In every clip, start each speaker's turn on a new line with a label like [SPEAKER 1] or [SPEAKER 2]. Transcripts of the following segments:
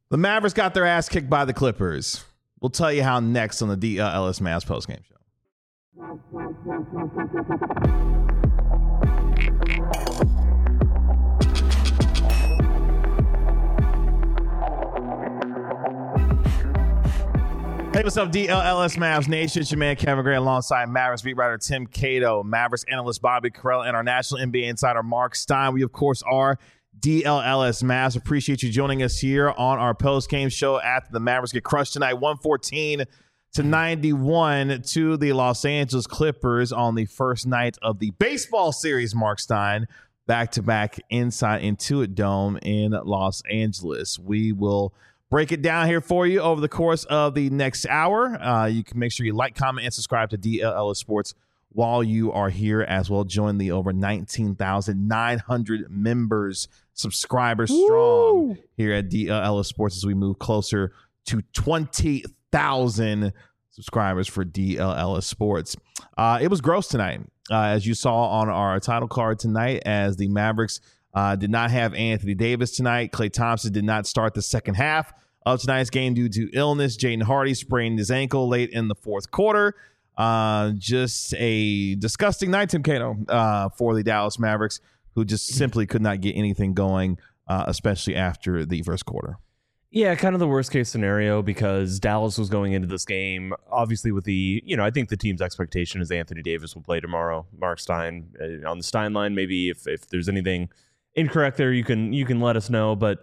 [SPEAKER 1] The Mavericks got their ass kicked by the Clippers. We'll tell you how next on the DLS Mavs postgame show. Hey, what's up, DLS Mavs Nation? It's your man, Kevin Gray, alongside Mavericks beat writer Tim Cato, Mavericks analyst Bobby Carell, and our national NBA insider Mark Stein. We, of course, are DLS Mavs. Appreciate you joining us here on our post-game show after the Mavericks get crushed tonight, 114-91 to the Los Angeles Clippers on the first night of the baseball series, Mark Stein, back-to-back inside Intuit Dome in Los Angeles. We will break it down here for you over the course of the next hour. You can make sure you like, comment, and subscribe to DLS Sports while you are here as well. Join the over 19,900 members, subscribers strong here at DLS Sports as we move closer to 20,000 subscribers for DLS Sports. It was gross tonight, as you saw on our title card tonight, as the Mavericks did not have Anthony Davis tonight. Klay Thompson did not start the second half of tonight's game due to illness. Jaden Hardy sprained his ankle late in the fourth quarter. Just a disgusting night, Tim Cato, for the Dallas Mavericks, who just simply could not get anything going, especially after the first quarter.
[SPEAKER 2] Yeah, kind of the worst case scenario, because Dallas was going into this game, obviously with the, I think the team's expectation is Anthony Davis will play tomorrow. Mark Stein on the Stein line. Maybe if there's anything incorrect there, you can let us know. But,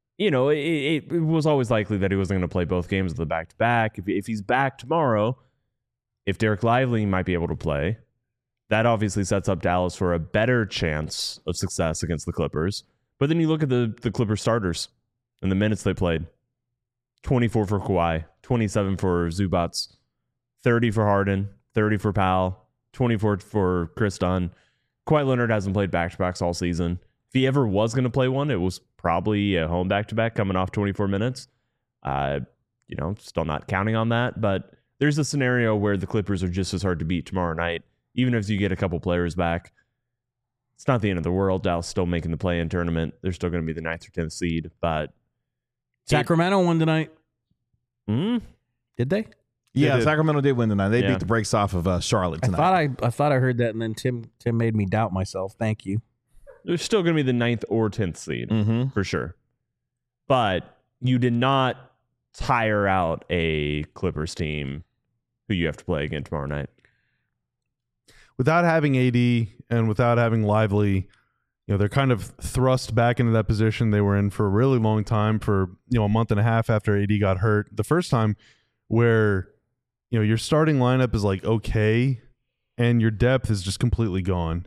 [SPEAKER 2] it was always likely that he wasn't going to play both games of the back-to-back. If he's back tomorrow, if Derek Lively might be able to play, that obviously sets up Dallas for a better chance of success against the Clippers. But then you look at the Clippers starters and the minutes they played. 24 for Kawhi, 27 for Zubac, 30 for Harden, 30 for Powell, 24 for Chris Dunn. Kawhi Leonard hasn't played back-to-backs all season. If he ever was going to play one, it was probably a home back-to-back coming off 24 minutes. Still not counting on that, but there's a scenario where the Clippers are just as hard to beat tomorrow night. Even if you get a couple players back, it's not the end of the world. Dallas still making the play-in tournament. They're still going to be the 9th or 10th seed, but
[SPEAKER 3] Sacramento won tonight.
[SPEAKER 2] Did
[SPEAKER 3] they?
[SPEAKER 1] Yeah, Sacramento did win tonight. They beat the brakes off of Charlotte tonight.
[SPEAKER 3] I thought I heard that, and then Tim made me doubt myself. Thank you.
[SPEAKER 2] They're still going to be the 9th or 10th seed, for sure. But you did not tire out a Clippers team who you have to play again tomorrow night.
[SPEAKER 4] Without having AD and without having Lively, they're kind of thrust back into that position they were in for a really long time, for a month and a half after AD got hurt. The first time where your starting lineup is like okay, and your depth is just completely gone.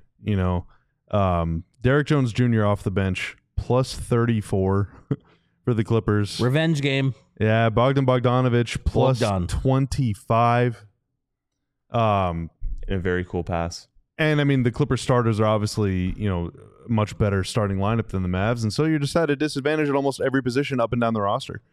[SPEAKER 4] Derek Jones Jr. off the bench, plus 34 for the Clippers.
[SPEAKER 3] Revenge game.
[SPEAKER 4] Yeah, Bogdanovich plus 25.
[SPEAKER 2] A very cool pass.
[SPEAKER 4] And I mean, the Clippers starters are obviously, much better starting lineup than the Mavs, and so you're just at a disadvantage at almost every position up and down the roster.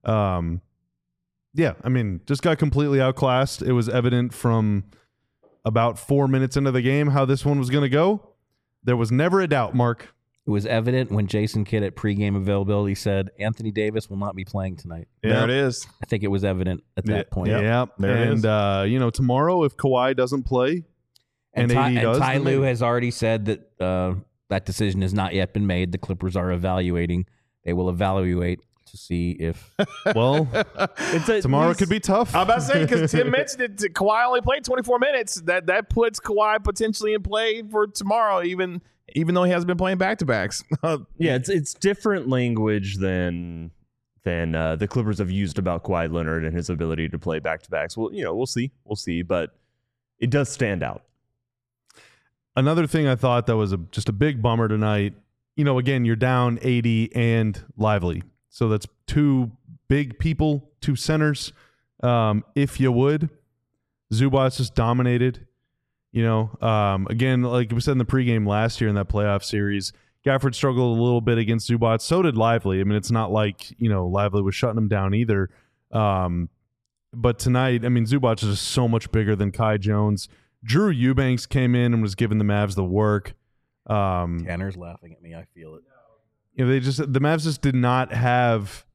[SPEAKER 4] Just got completely outclassed. It was evident from about 4 minutes into the game how this one was going to go. There was never a doubt, Mark.
[SPEAKER 3] It was evident when Jason Kidd at pregame availability said Anthony Davis will not be playing tonight.
[SPEAKER 1] Yeah. There it is.
[SPEAKER 3] I think it was evident at that point.
[SPEAKER 4] Yeah, there it is. And tomorrow if Kawhi doesn't play and AD does,
[SPEAKER 3] Ty Lue has already said that that decision has not yet been made. The Clippers are evaluating. They will evaluate to see if.
[SPEAKER 4] Well, tomorrow could be tough.
[SPEAKER 1] I'm about to say, because Tim mentioned it, Kawhi only played 24 minutes. That puts Kawhi potentially in play for tomorrow, even though he hasn't been playing back-to-backs.
[SPEAKER 2] Yeah, it's different language than the Clippers have used about Kawhi Leonard and his ability to play back-to-backs. Well, we'll see, but it does stand out.
[SPEAKER 4] Another thing I thought that was just a big bummer tonight, again, you're down AD and Lively. So that's two big people, two centers. If you would, Zubac just dominated. Again, like we said in the pregame last year in that playoff series, Gafford struggled a little bit against Zubac. So did Lively. I mean, it's not like, Lively was shutting him down either. But tonight, I mean, Zubac is just so much bigger than Kai Jones. Drew Eubanks came in and was giving the Mavs the work.
[SPEAKER 3] Tanner's laughing at me. I feel it.
[SPEAKER 4] The Mavs just did not have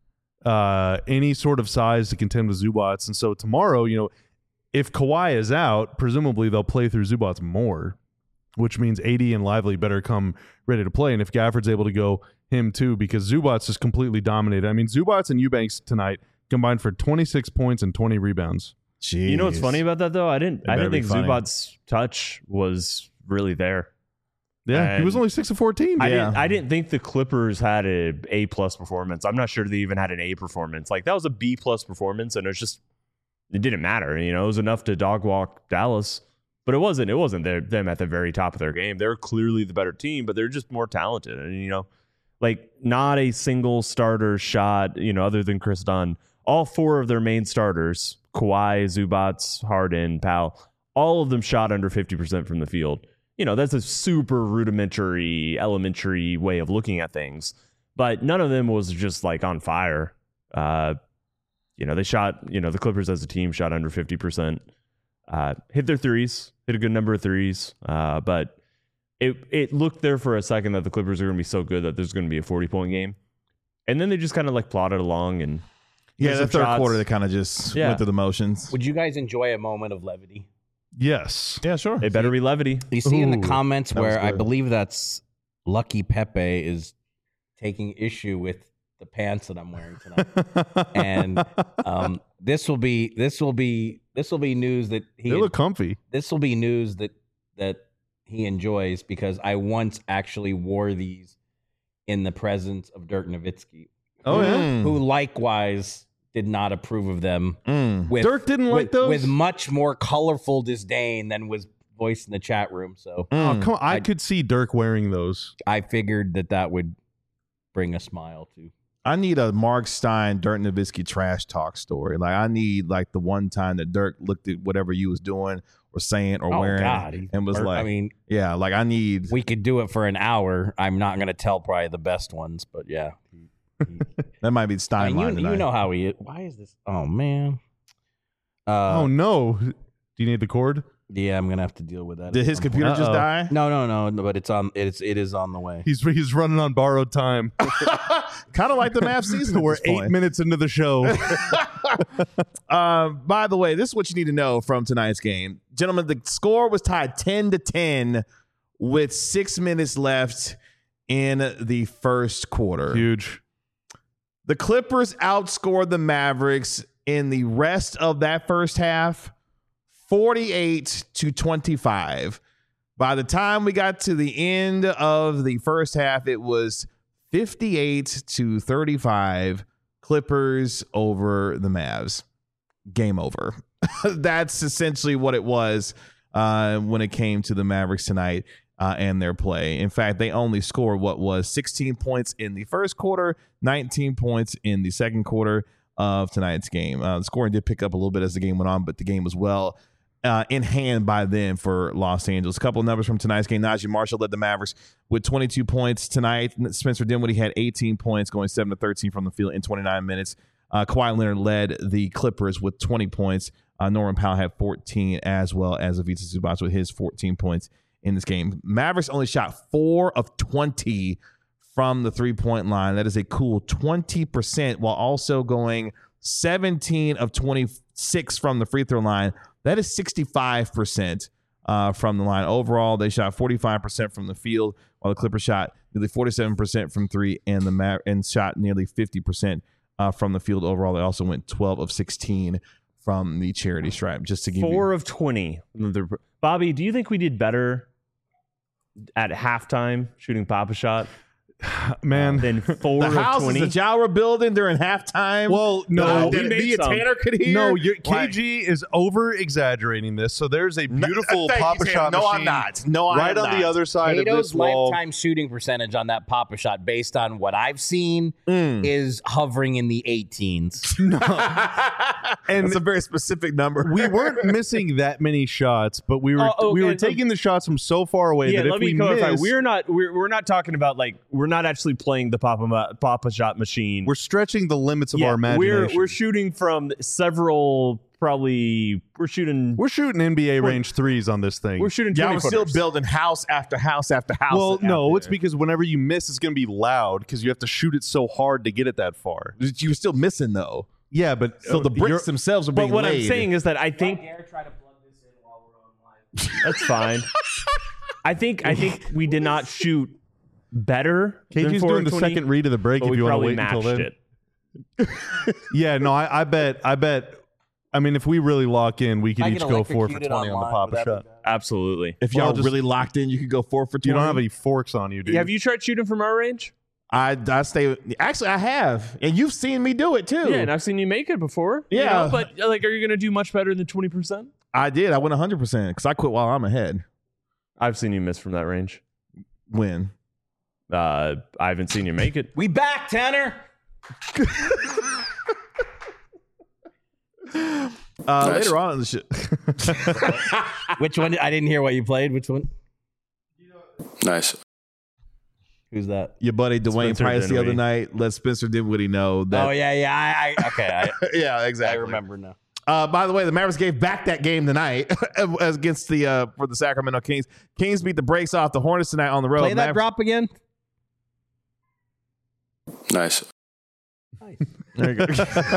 [SPEAKER 4] any sort of size to contend with Zubats. And so tomorrow, if Kawhi is out, presumably they'll play through Zubats more, which means AD and Lively better come ready to play. And if Gafford's able to go, him too, because Zubats is completely dominated. I mean, Zubats and Eubanks tonight combined for 26 points and 20 rebounds.
[SPEAKER 2] Jeez. You know what's funny about that though? I didn't think Zubats' touch was really there.
[SPEAKER 4] Yeah,
[SPEAKER 2] and
[SPEAKER 4] he was only 6 of 14.
[SPEAKER 2] I didn't think the Clippers had a A+ performance. I'm not sure they even had an A performance. Like that was a B+ performance, and it didn't matter. It was enough to dog walk Dallas, but it wasn't them at the very top of their game. They're clearly the better team, but they're just more talented. And like not a single starter shot. Other than Chris Dunn, all 4 of their main starters, Kawhi, Zubats, Harden, Powell, all of them shot under 50% from the field. That's a super rudimentary, elementary way of looking at things. But none of them was just like on fire. They shot, the Clippers as a team shot under 50%. Hit their threes, hit a good number of threes. But it looked there for a second that the Clippers are going to be so good that there's going to be a 40-point game. And then they just kind of like plodded along. And
[SPEAKER 1] the third quarter, they kind of just went through the motions.
[SPEAKER 3] Would you guys enjoy a moment of levity?
[SPEAKER 4] Yes.
[SPEAKER 1] Yeah, sure.
[SPEAKER 2] It better be levity.
[SPEAKER 3] You see in the comments where I believe that's Lucky Pepe is taking issue with the pants that I'm wearing tonight. And this will be news that
[SPEAKER 4] they look comfy.
[SPEAKER 3] This will be news that he enjoys, because I once actually wore these in the presence of Dirk Nowitzki.
[SPEAKER 4] Oh yeah.
[SPEAKER 3] Who likewise did not approve of them.
[SPEAKER 4] Dirk didn't like those?
[SPEAKER 3] With much more colorful disdain than was voiced in the chat room. So
[SPEAKER 4] oh, come on. I could see Dirk wearing those.
[SPEAKER 3] I figured that would bring a smile to.
[SPEAKER 1] I need a Mark Stein, Dirk Nowitzki trash talk story. Like I need like the one time that Dirk looked at whatever you was doing or saying or wearing and was like, I need.
[SPEAKER 3] We could do it for an hour. I'm not going to tell probably the best ones, but yeah.
[SPEAKER 1] That might be Stein line tonight.
[SPEAKER 3] You know how he is. Why is this? Oh man.
[SPEAKER 4] Oh no. Do you need the cord?
[SPEAKER 3] Yeah, I'm gonna have to deal with that.
[SPEAKER 1] Did his computer just die?
[SPEAKER 3] No, but it is on the way.
[SPEAKER 4] He's running on borrowed time.
[SPEAKER 1] Kind of like the Mavs season.
[SPEAKER 4] We're 8 minutes into the show.
[SPEAKER 1] By the way, this is what you need to know from tonight's game. Gentlemen, the score was tied 10-10 with 6 minutes left in the first quarter.
[SPEAKER 4] Huge.
[SPEAKER 1] The Clippers outscored the Mavericks in the rest of that first half 48-25. By the time we got to the end of the first half, it was 58-35. Clippers over the Mavs. Game over. That's essentially what it was when it came to the Mavericks tonight and their play. In fact, they only scored what was 16 points in the first quarter, 19 points in the second quarter of tonight's game. The scoring did pick up a little bit as the game went on, but the game was well in hand by then for Los Angeles. A couple of numbers from tonight's game. Najee Marshall led the Mavericks with 22 points tonight. Spencer Dinwiddie had 18 points, going 7 of 13 from the field in 29 minutes. Kawhi Leonard led the Clippers with 20 points. Norman Powell had 14, as well as Ivica Zubac with his 14 points in this game. Mavericks only shot 4 of 20 from the three-point line. That is a cool 20%, while also going 17 of 26 from the free throw line. That is 65% from the line. Overall, they shot 45% from the field, while the Clippers shot nearly 47% from three, and shot nearly 50% from the field overall. They also went 12 of 16 from the charity stripe. Just to give
[SPEAKER 2] 4 of 20. Bobby, do you think we did better at halftime shooting Papa Shot?
[SPEAKER 4] Man,
[SPEAKER 2] then 4
[SPEAKER 1] the
[SPEAKER 2] of
[SPEAKER 1] house
[SPEAKER 2] 20.
[SPEAKER 1] is the Jowra building during halftime.
[SPEAKER 4] Well, no,
[SPEAKER 1] Tanner could hear.
[SPEAKER 4] No, KG is over exaggerating this. So there's a beautiful Papa Shot machine.
[SPEAKER 1] I'm not. No, I'm
[SPEAKER 4] right
[SPEAKER 1] not.
[SPEAKER 4] On the other side
[SPEAKER 3] Kato's
[SPEAKER 4] of this wall.
[SPEAKER 3] lifetime shooting percentage on that Papa Shot, based on what I've seen, is hovering in the 18s.
[SPEAKER 1] And it's a very specific number.
[SPEAKER 4] We weren't missing that many shots, but we were taking the shots from so far away that if we missed,
[SPEAKER 2] we're not talking about like we're We're not actually playing the Papa Shot machine.
[SPEAKER 4] We're stretching the limits of our imagination.
[SPEAKER 2] We're shooting from several. Probably we're shooting
[SPEAKER 4] NBA range threes on this thing.
[SPEAKER 2] We're shooting.
[SPEAKER 1] Yeah, we're still building house after house after house.
[SPEAKER 4] Well, no, it's because whenever you miss, it's going to be loud because you have to shoot it so hard to get it that far.
[SPEAKER 1] You were still missing though.
[SPEAKER 4] Yeah, but
[SPEAKER 1] so the bricks themselves are being
[SPEAKER 2] But what
[SPEAKER 1] laid.
[SPEAKER 2] I'm saying is that I think.
[SPEAKER 5] Dare try to plug this in while we're on live.
[SPEAKER 2] That's fine. I think we did not shoot better.
[SPEAKER 4] KG's doing the second read of the break if you want to wait until then. Yeah, no, I bet. I mean, if we really lock in, we could each go 4 for 20 on the Papa Shot.
[SPEAKER 2] Absolutely.
[SPEAKER 1] If y'all really locked in, you could go 4 for 20.
[SPEAKER 4] You don't have any forks on you, dude.
[SPEAKER 2] Have you tried shooting from our range?
[SPEAKER 1] I stay. Actually, I have, and you've seen me do it too.
[SPEAKER 2] Yeah, and I've seen you make it before.
[SPEAKER 1] Yeah,
[SPEAKER 2] but like, are you going to do much better than 20%?
[SPEAKER 1] I did. I went 100% because I quit while I'm ahead.
[SPEAKER 2] I've seen you miss from that range.
[SPEAKER 1] When?
[SPEAKER 2] I haven't seen you make it.
[SPEAKER 3] We back, Tanner.
[SPEAKER 1] Later on in the shit.
[SPEAKER 3] Which one? I didn't hear what you played. Which one?
[SPEAKER 6] Nice.
[SPEAKER 3] Who's that?
[SPEAKER 1] Your buddy Dwayne
[SPEAKER 2] Spencer
[SPEAKER 1] Price the
[SPEAKER 2] Dinwiddie.
[SPEAKER 1] other night. Let Spencer Dinwiddie know that.
[SPEAKER 3] Oh yeah. Okay.
[SPEAKER 1] Yeah, exactly.
[SPEAKER 3] I remember now.
[SPEAKER 1] By the way, the Mavericks gave back that game tonight against the for the Sacramento Kings. Kings beat the brakes off the Hornets tonight on the road.
[SPEAKER 3] Play that drop again.
[SPEAKER 6] Nice.
[SPEAKER 1] There you go.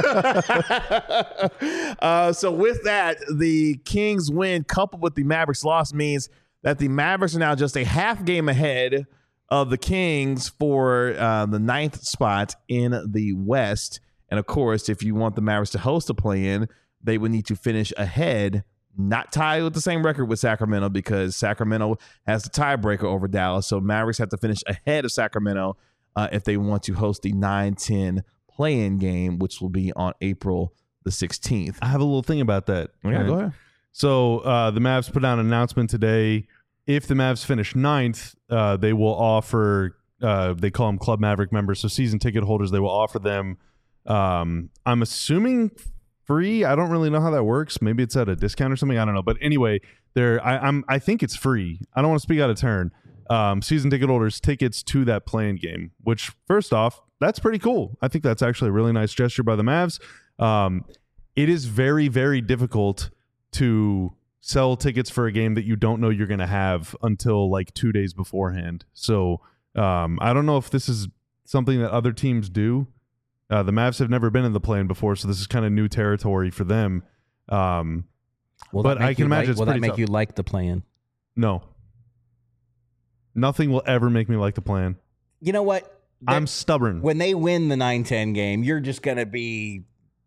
[SPEAKER 1] So with that, the Kings win coupled with the Mavericks loss means that the Mavericks are now just a half game ahead of the Kings for the 9th spot in the West. And of course, if you want the Mavericks to host a play-in, they would need to finish ahead, not tie with the same record with Sacramento because Sacramento has the tiebreaker over Dallas. So Mavericks have to finish ahead of Sacramento if they want to host the 9-10 play-in game, which will be on April the 16th.
[SPEAKER 4] I have a little thing about that.
[SPEAKER 1] Yeah, go ahead.
[SPEAKER 4] So the Mavs put out an announcement today. If the Mavs finish 9th, they will offer, they call them Club Maverick members, so season ticket holders, they will offer them, I'm assuming free. I don't really know how that works. Maybe it's at a discount or something. I don't know. But anyway, I think it's free. I don't want to speak out of turn. Season ticket holders tickets to that playing game, which first off, that's pretty cool. I think that's actually a really nice gesture by the Mavs. It is very, very difficult to sell tickets for a game that you don't know you're going to have until like 2 days beforehand. So I don't know if this is something that other teams do. The Mavs have never been in the play-in before, so this is kind of new territory for them. But I can imagine
[SPEAKER 3] will that make you like the plan?
[SPEAKER 4] No. Nothing will ever make me like the plan.
[SPEAKER 3] You know what?
[SPEAKER 4] I'm stubborn.
[SPEAKER 3] When they win the 9-10 game, you're just going to be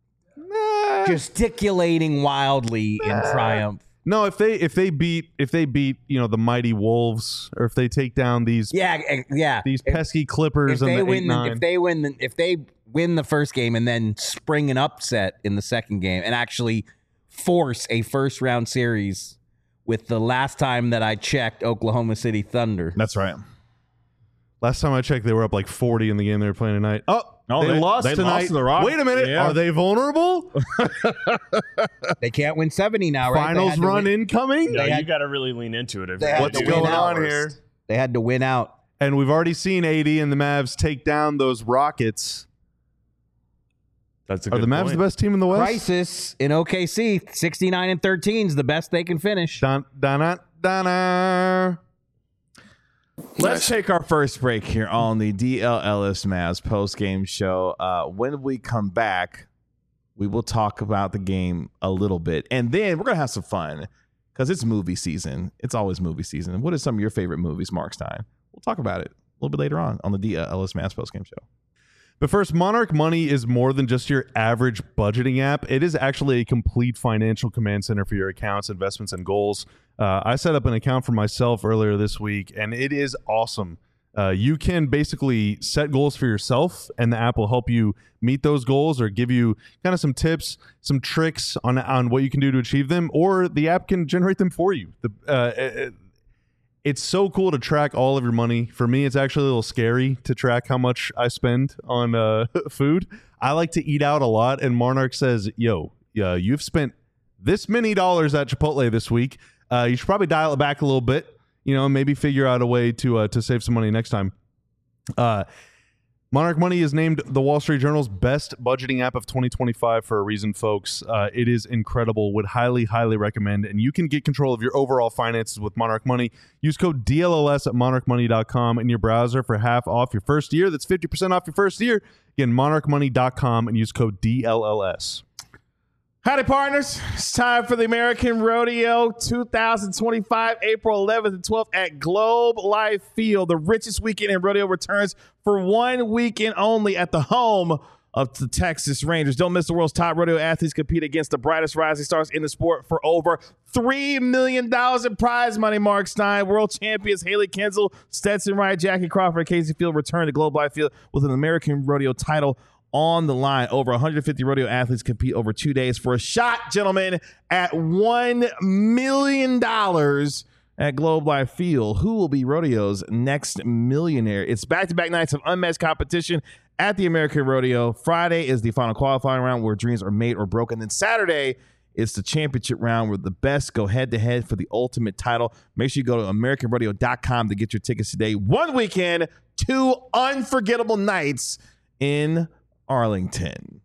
[SPEAKER 3] gesticulating wildly in triumph.
[SPEAKER 4] No, if they beat the mighty Wolves, or if they take down these these pesky Clippers
[SPEAKER 3] if
[SPEAKER 4] and
[SPEAKER 3] they
[SPEAKER 4] the
[SPEAKER 3] win
[SPEAKER 4] 8-9.
[SPEAKER 3] if they win the first game and then spring an upset in the second game and actually force a first round series with the last time that I checked Oklahoma City Thunder.
[SPEAKER 1] That's right.
[SPEAKER 4] Last time I checked, they were up like 40 in the game they were playing tonight. They lost tonight.
[SPEAKER 1] Lost to the Rockets.
[SPEAKER 4] Wait a minute.
[SPEAKER 1] Yeah.
[SPEAKER 4] Are they vulnerable?
[SPEAKER 3] They can't win 70 now, right?
[SPEAKER 4] Finals run incoming?
[SPEAKER 2] No, you got to really lean into it.
[SPEAKER 4] What's going on here?
[SPEAKER 3] They had to win out.
[SPEAKER 4] And we've already seen AD and the Mavs take down those Rockets.
[SPEAKER 2] That's a
[SPEAKER 4] Are
[SPEAKER 2] good
[SPEAKER 4] the Mavs
[SPEAKER 2] point.
[SPEAKER 4] the best team in the West?
[SPEAKER 3] Crisis in OKC, 69-13 is the best they can finish.
[SPEAKER 4] Donna.
[SPEAKER 1] Let's take our first break here on the DL Ellis Mavs post-game show. When we come back, we will talk about the game a little bit. And then we're going to have some fun because it's movie season. It's always movie season. What are some of your favorite movies, Mark Stein? We'll talk about it a little bit later on the DL Ellis Mavs post-game show.
[SPEAKER 4] But first, Monarch Money is more than just your average budgeting app. It is actually a complete financial command center for your accounts, investments, and goals. I set up an account for myself earlier this week, and it is awesome. You can basically set goals for yourself, and the app will help you meet those goals or give you kind of some tips, some tricks on what you can do to achieve them, or the app can generate them for you. It's so cool to track all of your money. For me, it's actually a little scary to track how much I spend on food. I like to eat out a lot, and Monarch says, you've spent this many dollars at Chipotle this week. You should probably dial it back a little bit, maybe figure out a way to save some money next time. Monarch Money is named the Wall Street Journal's best budgeting app of 2025 for a reason, folks. It is incredible. Would highly, highly recommend. And you can get control of your overall finances with Monarch Money. Use code DLLS at monarchmoney.com in your browser for half off your first year. That's 50% off your first year. Again, monarchmoney.com and use code DLLS.
[SPEAKER 1] Howdy, partners. It's time for the American Rodeo 2025, April 11th and 12th at Globe Life Field. The richest weekend in rodeo returns for 1 weekend only at the home of the Texas Rangers. Don't miss the world's top rodeo athletes compete against the brightest rising stars in the sport for over $3 million in prize money, Mark Stein. World champions Haley Kensel, Stetson Wright, Jackie Crawford, Casey Field return to Globe Life Field with an American Rodeo title on the line. Over 150 rodeo athletes compete over 2 days for a shot, gentlemen, at $1 million at Globe Life Field. Who will be rodeo's next millionaire? It's back-to-back nights of unmatched competition at the American Rodeo. Friday is the final qualifying round where dreams are made or broken. Then Saturday is the championship round where the best go head-to-head for the ultimate title. Make sure you go to AmericanRodeo.com to get your tickets today. 1 weekend, 2 unforgettable nights in Arlington.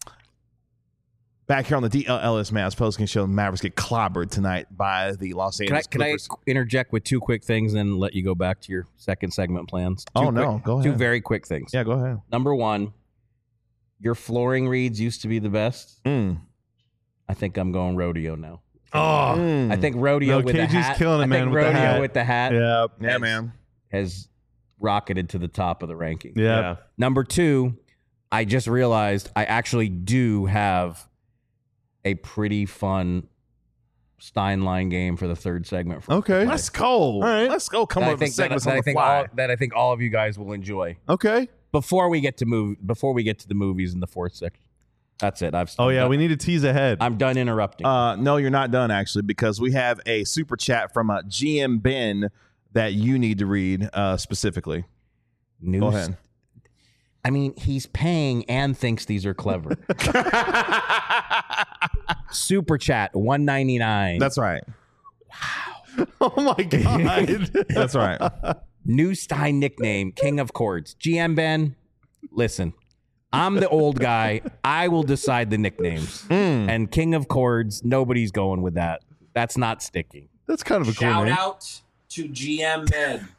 [SPEAKER 1] Back here on the DLLS Mavs postgame show, the Mavericks get clobbered tonight by the Los Angeles Clippers.
[SPEAKER 3] Can I interject with 2 quick things and let you go back to your second segment plans?
[SPEAKER 1] Go ahead.
[SPEAKER 3] 2 very quick things.
[SPEAKER 1] Yeah, go ahead.
[SPEAKER 3] Number 1, your flooring reads used to be the best. I think I'm going rodeo now. I think rodeo with the hat.
[SPEAKER 4] Killing it, man,
[SPEAKER 3] with the hat.
[SPEAKER 1] Yeah, man.
[SPEAKER 3] Has rocketed to the top of the ranking.
[SPEAKER 4] Yeah.
[SPEAKER 3] Number 2, I just realized I actually do have a pretty fun Steinline game for the third segment.
[SPEAKER 4] Okay.
[SPEAKER 1] Let's go.
[SPEAKER 4] All right.
[SPEAKER 1] Let's go. Come up with segments on the
[SPEAKER 3] that I think all of you guys will enjoy.
[SPEAKER 4] Okay.
[SPEAKER 3] Before we get to the movies in the fourth section. That's it.
[SPEAKER 4] We need to tease ahead.
[SPEAKER 3] I'm done interrupting.
[SPEAKER 1] No, you're not done, actually, because we have a super chat from GM Ben that you need to read specifically. Go ahead.
[SPEAKER 3] I mean, he's paying and thinks these are clever. Super chat, $1.99.
[SPEAKER 1] That's right.
[SPEAKER 3] Wow.
[SPEAKER 4] Oh my God.
[SPEAKER 1] That's right.
[SPEAKER 3] New Stein nickname, King of Chords. GM Ben, listen, I'm the old guy. I will decide the nicknames. And King of Chords, nobody's going with that. That's not sticking.
[SPEAKER 4] That's kind of a cool name.
[SPEAKER 5] Shout out to GM Ben.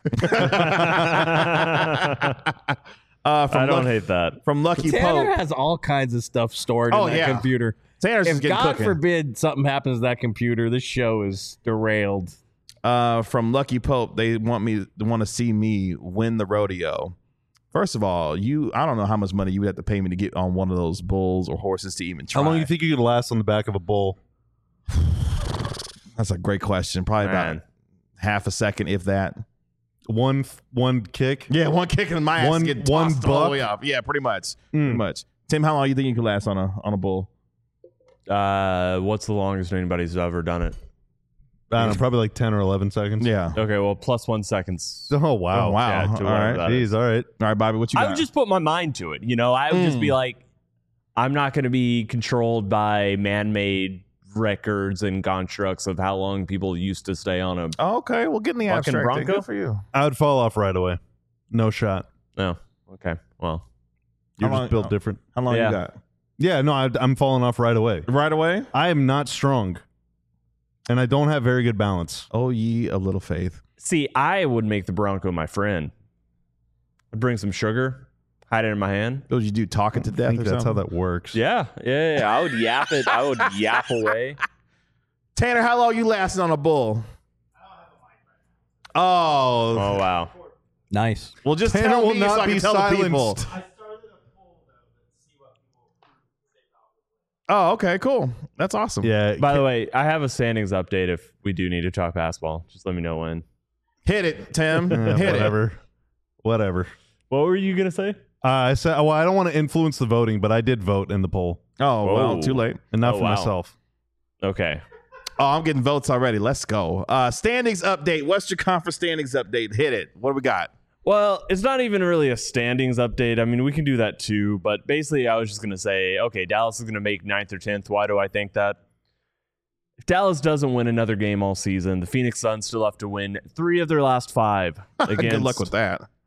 [SPEAKER 2] I don't hate that.
[SPEAKER 1] From Lucky
[SPEAKER 3] Tanner
[SPEAKER 1] Pope.
[SPEAKER 3] has all kinds of stuff stored in that computer.
[SPEAKER 1] Tanner's
[SPEAKER 3] If
[SPEAKER 1] just getting
[SPEAKER 3] God
[SPEAKER 1] cooking.
[SPEAKER 3] forbid something happens to that computer, this show is derailed.
[SPEAKER 1] From Lucky Pope, they want to see me win the rodeo. First of all, I don't know how much money you would have to pay me to get on one of those bulls or horses to even try.
[SPEAKER 4] How long do you think you could last on the back of a bull?
[SPEAKER 1] That's a great question. Probably about half a second, if that.
[SPEAKER 4] One kick?
[SPEAKER 1] Yeah, one kick and my ass get
[SPEAKER 4] one
[SPEAKER 1] tossed all the
[SPEAKER 4] buck?
[SPEAKER 1] way off. Yeah, pretty much. Pretty much. Tim, how long do you think you could last on a bull?
[SPEAKER 2] What's the longest anybody's ever done it?
[SPEAKER 4] I don't know, probably like 10 or 11 seconds.
[SPEAKER 1] Yeah.
[SPEAKER 2] Okay, well, +1 seconds.
[SPEAKER 4] Oh, wow.
[SPEAKER 1] Oh, wow.
[SPEAKER 2] Yeah, to
[SPEAKER 1] All
[SPEAKER 2] whatever
[SPEAKER 1] right.
[SPEAKER 2] that
[SPEAKER 4] Jeez,
[SPEAKER 2] is.
[SPEAKER 4] all right.
[SPEAKER 1] All right, Bobby, what you got?
[SPEAKER 2] I would just put my mind to it. I would just be like, I'm not going to be controlled by man-made records and constructs of how long people used to stay on a
[SPEAKER 1] okay, well, get in the
[SPEAKER 2] fucking
[SPEAKER 1] abstract.
[SPEAKER 2] Bronco?
[SPEAKER 1] Good for you.
[SPEAKER 4] I would fall off right away. No shot.
[SPEAKER 2] No. Okay. Well,
[SPEAKER 4] You're
[SPEAKER 1] How
[SPEAKER 4] just
[SPEAKER 1] long-
[SPEAKER 4] built different.
[SPEAKER 1] How long
[SPEAKER 2] Yeah.
[SPEAKER 1] you got?
[SPEAKER 4] Yeah, no, I'm falling off right away.
[SPEAKER 1] Right away?
[SPEAKER 4] I am not strong. And I don't have very good balance.
[SPEAKER 1] Oh, ye of little faith.
[SPEAKER 2] see, I would make the Bronco my friend. I'd bring some sugar, hide it in my hand.
[SPEAKER 1] What would you do? Talk it to
[SPEAKER 4] I
[SPEAKER 1] death
[SPEAKER 4] think
[SPEAKER 1] or
[SPEAKER 4] that's
[SPEAKER 1] something?
[SPEAKER 4] how that works.
[SPEAKER 2] Yeah. I would yap it. I would yap away.
[SPEAKER 1] Tanner, how long you lasting on a bull? Oh.
[SPEAKER 2] Oh, wow.
[SPEAKER 3] Nice.
[SPEAKER 1] Well, just
[SPEAKER 4] Tanner
[SPEAKER 1] tell
[SPEAKER 4] will
[SPEAKER 1] me so
[SPEAKER 4] not
[SPEAKER 1] I can
[SPEAKER 4] be
[SPEAKER 1] tell the people.
[SPEAKER 4] silenced.
[SPEAKER 5] I started a poll though to see what people
[SPEAKER 1] Oh, okay, cool. That's awesome.
[SPEAKER 4] Yeah.
[SPEAKER 2] By the way, I have a standings update if we do need to talk basketball. Just let me know when.
[SPEAKER 1] Hit it, Tim. Hit
[SPEAKER 4] Whatever.
[SPEAKER 2] What were you going to say?
[SPEAKER 4] I said, well, I don't want to influence the voting, but I did vote in the poll,
[SPEAKER 1] it. Oh, well,
[SPEAKER 2] Whoa.
[SPEAKER 1] too late.
[SPEAKER 4] and not
[SPEAKER 2] Oh,
[SPEAKER 4] for
[SPEAKER 2] wow.
[SPEAKER 4] myself.
[SPEAKER 2] Okay.
[SPEAKER 1] Oh, I'm getting votes already. Let's go. Standings update. Western Conference standings update. Hit it. What do we got?
[SPEAKER 2] Well, it's not even really a standings update. I mean, we can do that too, but basically I was just going to say, okay, Dallas is going to make 9th or 10th. Why do I think that? If Dallas doesn't win another game all season, the Phoenix Suns still have to win 3 of their last 5 against
[SPEAKER 1] Good luck with that.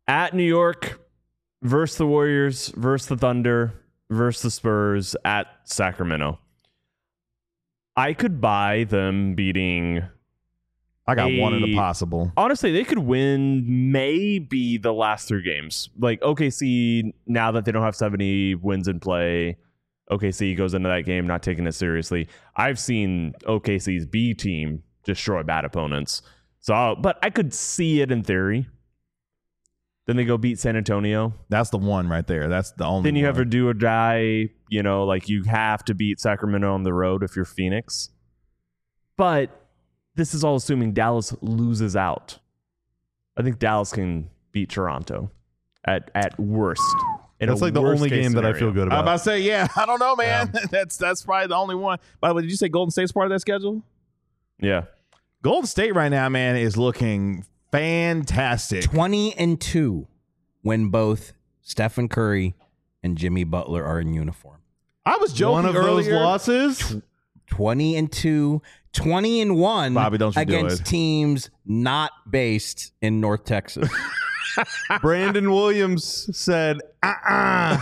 [SPEAKER 2] At New York, versus the Warriors, versus the Thunder, versus the Spurs, at Sacramento. I could buy them beating...
[SPEAKER 1] I got one in the possible.
[SPEAKER 2] Honestly, they could win maybe the last 3 games. Like OKC, now that they don't have 70 wins in play, OKC goes into that game not taking it seriously. I've seen OKC's B team destroy bad opponents. But I could see it in theory. Then they go beat San Antonio.
[SPEAKER 1] That's the one right there. That's the only.
[SPEAKER 2] Then you
[SPEAKER 1] one.
[SPEAKER 2] have a do or die. You know, like you have to beat Sacramento on the road if you're Phoenix. But this is all assuming Dallas loses out. I think Dallas can beat Toronto at worst.
[SPEAKER 4] That's like the only game that I feel good
[SPEAKER 1] I'm
[SPEAKER 4] about.
[SPEAKER 1] about to say, yeah. I don't know, man. Yeah. That's probably the only one. By the way, did you say Golden State's part of that schedule?
[SPEAKER 2] Yeah.
[SPEAKER 1] Golden State right now, man, is looking fantastic.
[SPEAKER 3] 20-2 when both Stephen Curry and Jimmy Butler are in uniform.
[SPEAKER 1] I was joking
[SPEAKER 4] One of
[SPEAKER 1] earlier.
[SPEAKER 4] those losses?
[SPEAKER 3] 20-2, 20-1
[SPEAKER 1] Bobby, don't you do
[SPEAKER 3] against
[SPEAKER 1] it.
[SPEAKER 3] teams not based in North Texas.
[SPEAKER 4] Brandon Williams said, guys.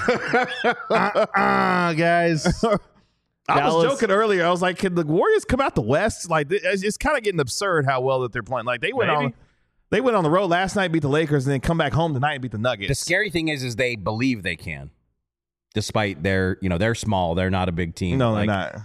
[SPEAKER 1] I was joking earlier. I was like, can the Warriors come out the West? Like, it's kind of getting absurd how well that they're playing. Like, they went on the road last night, beat the Lakers, and then come back home tonight and beat the Nuggets.
[SPEAKER 3] The scary thing is they believe they can, despite they're small. They're not a big team.
[SPEAKER 1] No, they're not.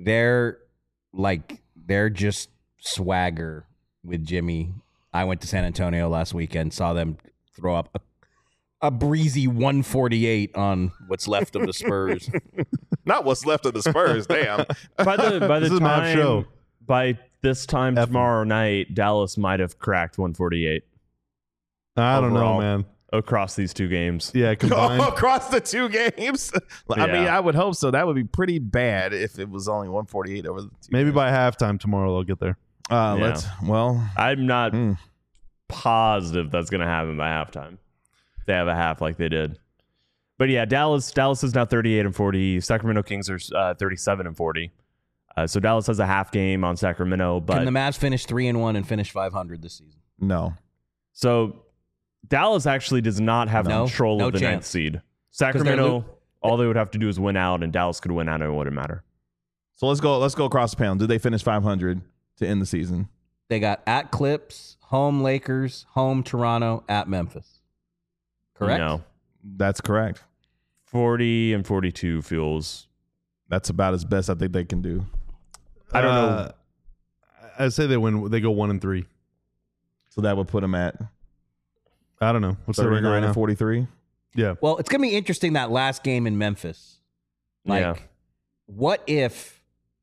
[SPEAKER 3] They're just swagger with Jimmy. I went to San Antonio last weekend, saw them throw up a breezy 148 on what's left of the Spurs.
[SPEAKER 1] Not what's left of the Spurs. Damn.
[SPEAKER 2] By the
[SPEAKER 4] This is a map show.
[SPEAKER 2] By this time tomorrow night, Dallas might have cracked 148
[SPEAKER 4] I don't know,
[SPEAKER 2] overall.
[SPEAKER 4] man.
[SPEAKER 2] Across these 2 games.
[SPEAKER 4] Yeah, combined.
[SPEAKER 1] Across the 2 games. I mean, I would hope so. That would be pretty bad if it was only 148 over the 2
[SPEAKER 4] Maybe
[SPEAKER 1] games.
[SPEAKER 4] by halftime tomorrow they'll get there.
[SPEAKER 2] I'm not positive that's going to happen by halftime. They have a half like they did. But yeah, Dallas is now 38-40. Sacramento Kings are 37-40. So Dallas has a half game on Sacramento. But
[SPEAKER 3] Can the Mavs finish 3-1 and finish 500 this season?
[SPEAKER 1] No.
[SPEAKER 2] So Dallas actually does not have control of the
[SPEAKER 3] chance.
[SPEAKER 2] 9th seed. Sacramento, all they would have to do is win out, and Dallas could win out, and it wouldn't matter.
[SPEAKER 1] So let's go across the panel. Did they finish 500 to end the season?
[SPEAKER 3] They got at Clips, home Lakers, home Toronto, at Memphis. Correct?
[SPEAKER 2] No.
[SPEAKER 1] That's correct.
[SPEAKER 2] 40-42 feels...
[SPEAKER 1] That's about as best I think they can do.
[SPEAKER 2] I don't know.
[SPEAKER 4] I'd say they win. They go 1-3.
[SPEAKER 1] So that would put them at
[SPEAKER 4] I don't know. What's their record right
[SPEAKER 1] 39
[SPEAKER 4] now?
[SPEAKER 1] and 43.
[SPEAKER 4] Yeah.
[SPEAKER 3] Well, it's going to be interesting that last game in Memphis. What if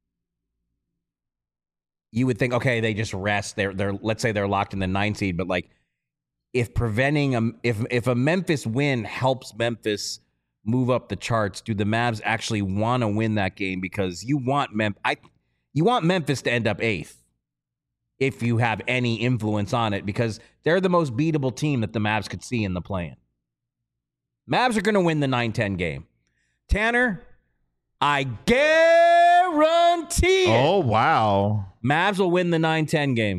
[SPEAKER 3] you would think, okay, they just rest. They're let's say they're locked in the 9 seed, but like if if a Memphis win helps Memphis move up the charts, do the Mavs actually want to win that game? Because you want Memphis to end up 8th if you have any influence on it, because they're the most beatable team that the Mavs could see in the play-in. Mavs are going to win the 9-10 game. Tanner, I guarantee it.
[SPEAKER 1] Oh, wow.
[SPEAKER 3] Mavs will win the 9-10 game.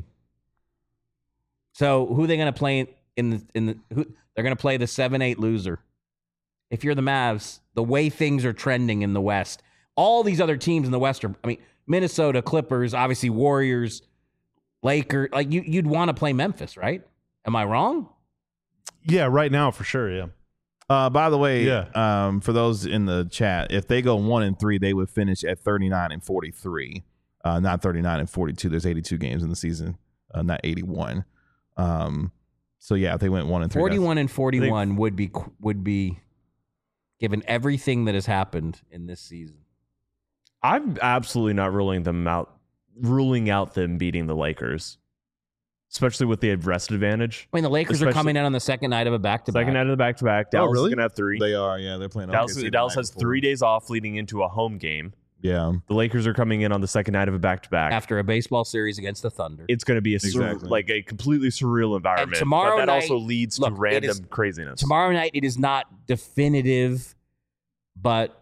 [SPEAKER 3] So who are they going to play they're going to play the 7-8 loser. If you're the Mavs, the way things are trending in the West, all these other teams in the West are, Minnesota, Clippers, obviously Warriors, Lakers, like you'd want to play Memphis, right? Am I wrong?
[SPEAKER 4] Yeah, right now for sure, yeah.
[SPEAKER 1] By the way,
[SPEAKER 4] Yeah.
[SPEAKER 1] For those in the chat, if they go 1-3, they would finish at 39-43, not 39-42. There's 82 games in the season, not 81. So yeah, if they went 1-3,
[SPEAKER 3] 41-41 would be given everything that has happened in this season.
[SPEAKER 2] I'm absolutely not ruling out them beating the Lakers, especially with the rest advantage.
[SPEAKER 3] The Lakers are coming in on the second night of a back-to-back.
[SPEAKER 2] Second night of the back-to-back. Dallas
[SPEAKER 1] really?
[SPEAKER 2] is going to have 3.
[SPEAKER 1] They are, yeah. They're playing.
[SPEAKER 2] Dallas
[SPEAKER 1] OKC the
[SPEAKER 2] has
[SPEAKER 1] night
[SPEAKER 2] 3
[SPEAKER 1] before.
[SPEAKER 2] days off leading into a home game.
[SPEAKER 1] Yeah.
[SPEAKER 2] The Lakers are coming in on the second night of a back-to-back.
[SPEAKER 3] After a baseball series against the Thunder.
[SPEAKER 2] It's going to be a completely surreal environment.
[SPEAKER 3] And tomorrow
[SPEAKER 2] but that
[SPEAKER 3] night,
[SPEAKER 2] also leads to random craziness.
[SPEAKER 3] Tomorrow night, it is not definitive, but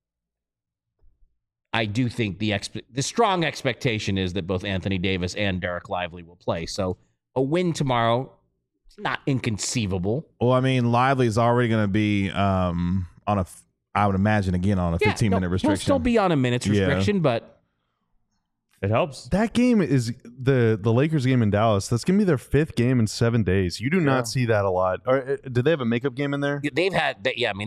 [SPEAKER 3] I do think the strong expectation is that both Anthony Davis and Derek Lively will play. So a win tomorrow not inconceivable.
[SPEAKER 1] Well, I mean, Lively is already going to be on a, I would imagine, again, on a 15-minute restriction.
[SPEAKER 3] He'll still be on a minute's restriction, but
[SPEAKER 2] it helps.
[SPEAKER 4] That game is the Lakers game in Dallas. That's gonna be their 5th game in 7 days. You do not see that a lot. Or did they have a makeup game in there?
[SPEAKER 3] they've had. They had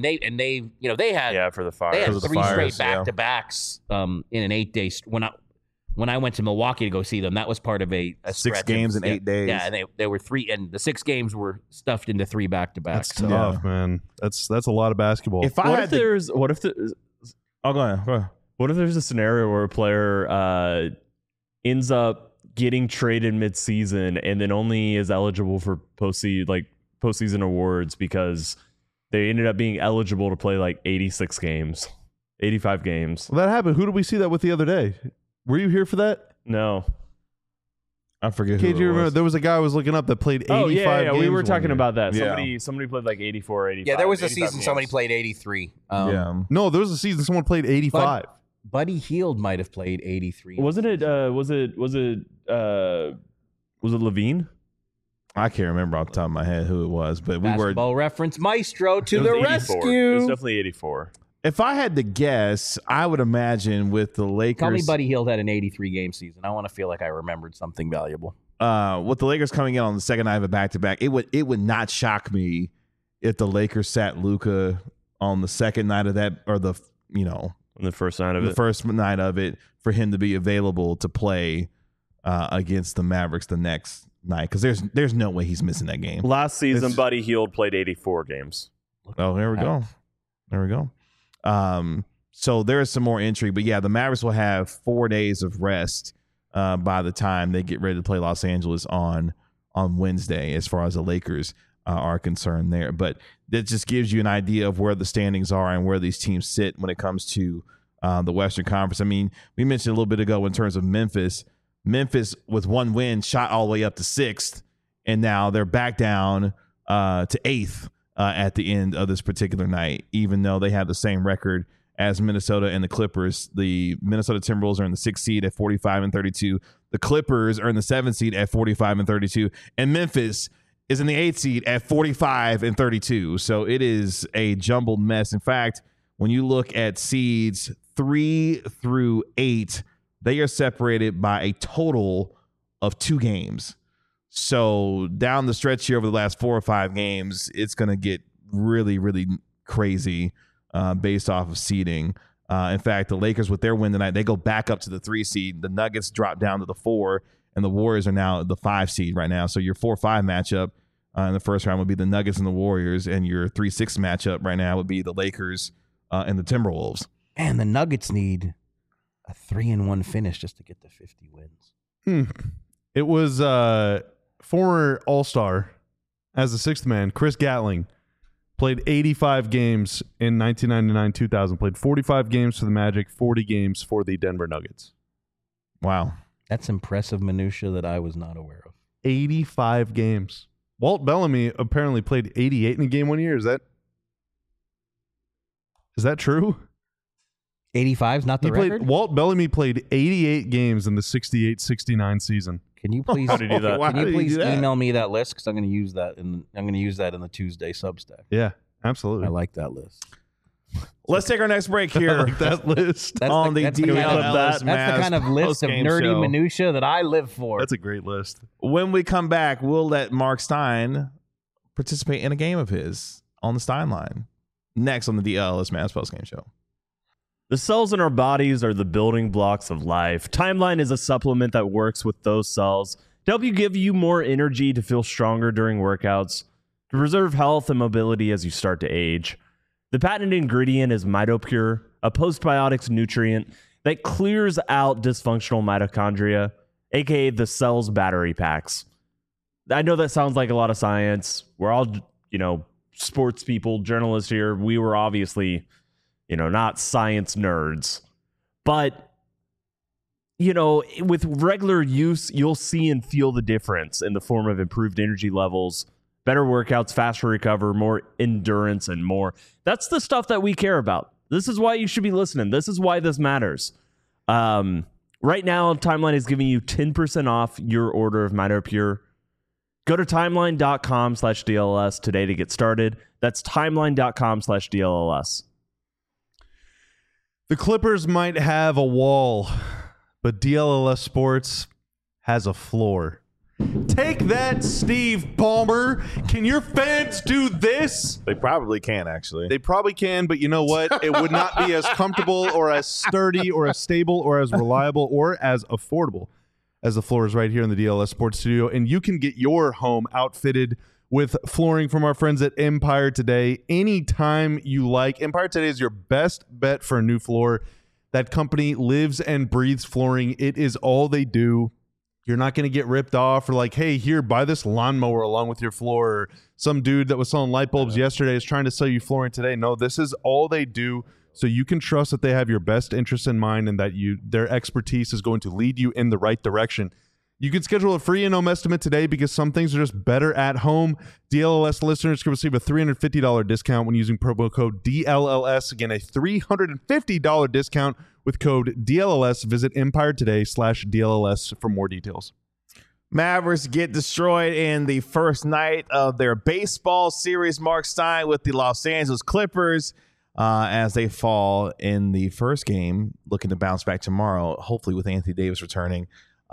[SPEAKER 2] For the Fire.
[SPEAKER 3] they had
[SPEAKER 1] Because of the
[SPEAKER 3] 3
[SPEAKER 1] Fires,
[SPEAKER 3] straight back-to-backs in an 8-day. When I went to Milwaukee to go see them, that was part of a
[SPEAKER 1] 6
[SPEAKER 3] stretch
[SPEAKER 1] games
[SPEAKER 3] of,
[SPEAKER 1] in 8 days.
[SPEAKER 3] Yeah, and they were 3, and the 6 games were stuffed into 3 back-to-backs.
[SPEAKER 4] That's tough, man. That's a lot of basketball.
[SPEAKER 1] If I
[SPEAKER 2] What
[SPEAKER 1] had
[SPEAKER 2] if
[SPEAKER 1] to,
[SPEAKER 2] there's
[SPEAKER 1] oh, go ahead.
[SPEAKER 2] What if there's a scenario where a player ends up getting traded mid-season and then only is eligible for postseason awards because they ended up being eligible to play like 86 games, 85 games?
[SPEAKER 4] Well, that happened. Who did we see that with the other day? Were you here for that?
[SPEAKER 2] No.
[SPEAKER 1] I forget
[SPEAKER 4] Okay,
[SPEAKER 1] who
[SPEAKER 4] do you
[SPEAKER 1] it
[SPEAKER 4] remember?
[SPEAKER 1] was.
[SPEAKER 4] There was a guy I was looking up that played 85
[SPEAKER 2] Oh, yeah.
[SPEAKER 4] games
[SPEAKER 2] We were
[SPEAKER 4] one
[SPEAKER 2] talking
[SPEAKER 4] year.
[SPEAKER 2] about that.
[SPEAKER 1] Yeah.
[SPEAKER 2] Somebody played like 84 or 85.
[SPEAKER 3] Yeah, there was a
[SPEAKER 2] 85
[SPEAKER 3] season
[SPEAKER 2] games.
[SPEAKER 3] somebody played 83.
[SPEAKER 1] Yeah.
[SPEAKER 4] No, there was a season someone played 85.
[SPEAKER 3] Buddy Hield might have played 83.
[SPEAKER 2] Wasn't it? Was it Levine?
[SPEAKER 1] I can't remember off the top of my head who it was, but we were.
[SPEAKER 3] Basketball reference maestro to
[SPEAKER 2] It was
[SPEAKER 3] the
[SPEAKER 2] 84. It
[SPEAKER 3] rescue.
[SPEAKER 2] was definitely 84.
[SPEAKER 1] If I had to guess, I would imagine with the Lakers.
[SPEAKER 3] Tell me Buddy Hield had an 83-game season. I want to feel like I remembered something valuable.
[SPEAKER 1] With the Lakers coming in on the second night of a back-to-back, it would not shock me if the Lakers sat Luka on the second night of that, or the
[SPEAKER 2] On the first night of
[SPEAKER 1] the
[SPEAKER 2] it.
[SPEAKER 1] first night of it, for him to be available to play against the Mavericks the next night, because there's no way he's missing that game.
[SPEAKER 2] Last season,
[SPEAKER 1] It's-
[SPEAKER 2] Buddy Hield played 84 games.
[SPEAKER 1] Oh, there we go. There we go. So there is some more intrigue, but yeah, the Mavericks will have 4 days of rest by the time they get ready to play Los Angeles on Wednesday, as far as the Lakers are concerned there. But that just gives you an idea of where the standings are and where these teams sit when it comes to the Western Conference. I mean, we mentioned a little bit ago in terms of Memphis. Memphis, with 1 win, shot all the way up to 6th, and now they're back down to 8th at the end of this particular night, even though they have the same record as Minnesota and the Clippers. The Minnesota Timberwolves are in the 6th seed at 45-32. The Clippers are in the 7th seed at 45-32. And Memphis is in the 8th seed at 45-32. So it is a jumbled mess. In fact, when you look at seeds 3 through 8, they are separated by a total of 2 games. So down the stretch here over the last 4 or 5 games, it's going to get really, really crazy based off of seeding. In fact, the Lakers, with their win tonight, they go back up to the 3 seed. The Nuggets drop down to the 4, and the Warriors are now the 5 seed right now. So your 4-5 matchup in the first round would be the Nuggets and the Warriors, and your 3-6 matchup right now would be the Lakers and the Timberwolves.
[SPEAKER 3] And the Nuggets need a 3-1 finish just to get to 50 wins.
[SPEAKER 4] It was former All-Star as the 6th man, Chris Gatling, played 85 games in 1999-2000, played 45 games for the Magic, 40 games for the Denver Nuggets.
[SPEAKER 1] Wow.
[SPEAKER 3] That's impressive minutia that I was not aware of.
[SPEAKER 4] 85 games. Walt Bellamy apparently played 88 in a game one year. Is that true?
[SPEAKER 3] 85's not the record?
[SPEAKER 4] Walt Bellamy played 88 games in the 68-69 season.
[SPEAKER 3] Can you please,
[SPEAKER 2] How'd he do that?
[SPEAKER 1] Wow,
[SPEAKER 3] can
[SPEAKER 1] how
[SPEAKER 3] you
[SPEAKER 1] did he
[SPEAKER 3] please
[SPEAKER 1] do that?
[SPEAKER 3] email me that list? Because I'm going to use that in the Tuesday Substack.
[SPEAKER 4] Yeah, absolutely.
[SPEAKER 3] I like that list.
[SPEAKER 1] Let's take our next break here.
[SPEAKER 4] I like that list.
[SPEAKER 3] That's
[SPEAKER 1] on the
[SPEAKER 3] that's the
[SPEAKER 1] DL
[SPEAKER 3] kind of,
[SPEAKER 1] Ellis
[SPEAKER 3] that's the kind of list of
[SPEAKER 1] postgame
[SPEAKER 3] nerdy
[SPEAKER 1] show.
[SPEAKER 3] minutia that I live for.
[SPEAKER 4] That's a great list.
[SPEAKER 1] When we come back, we'll let Mark Stein participate in a game of his on the Stein line. Next on the DLS Mavs postgame show.
[SPEAKER 2] The cells in our bodies are the building blocks of life. Timeline is a supplement that works with those cells to help you give you more energy to feel stronger during workouts, to preserve health and mobility as you start to age. The patented ingredient is MitoPure, a postbiotics nutrient that clears out dysfunctional mitochondria, aka the cell's battery packs. I know that sounds like a lot of science. We're all, sports people, journalists here. We were obviously, not science nerds. But, with regular use, you'll see and feel the difference in the form of improved energy levels, better workouts, faster recover, more endurance, and more. That's the stuff that we care about. This is why you should be listening. This is why this matters. Right now, Timeline is giving you 10% off your order of MitoPure. Go to timeline.com/DLLS today to get started. That's timeline.com/DLLS.
[SPEAKER 4] The Clippers might have a wall, but DLLS Sports has a floor. Take that, Steve Ballmer. Can your fans do this?
[SPEAKER 1] They probably can, actually.
[SPEAKER 4] They probably can, but you know what? It would not be as comfortable or as sturdy or as stable or as reliable or as affordable as the floors right here in the DLS Sports Studio. And you can get your home outfitted with flooring from our friends at Empire Today anytime you like. Empire Today is your best bet for a new floor. That company lives and breathes flooring. It is all they do. You're not going to get ripped off or like, hey, here, buy this lawnmower along with your floor. Or some dude that was selling light bulbs yesterday is trying to sell you flooring today. No, this is all they do. So you can trust that they have your best interests in mind and that their expertise is going to lead you in the right direction. You can schedule a free in-home estimate today because some things are just better at home. DLLS listeners can receive a $350 discount when using promo code DLLS. Again, a $350 discount with code DLLS. Visit Empire Today/DLLS for more details.
[SPEAKER 1] Mavericks get destroyed in the first night of their baseball series, Mark Stein, with the Los Angeles Clippers as they fall in the first game, looking to bounce back tomorrow, hopefully with Anthony Davis returning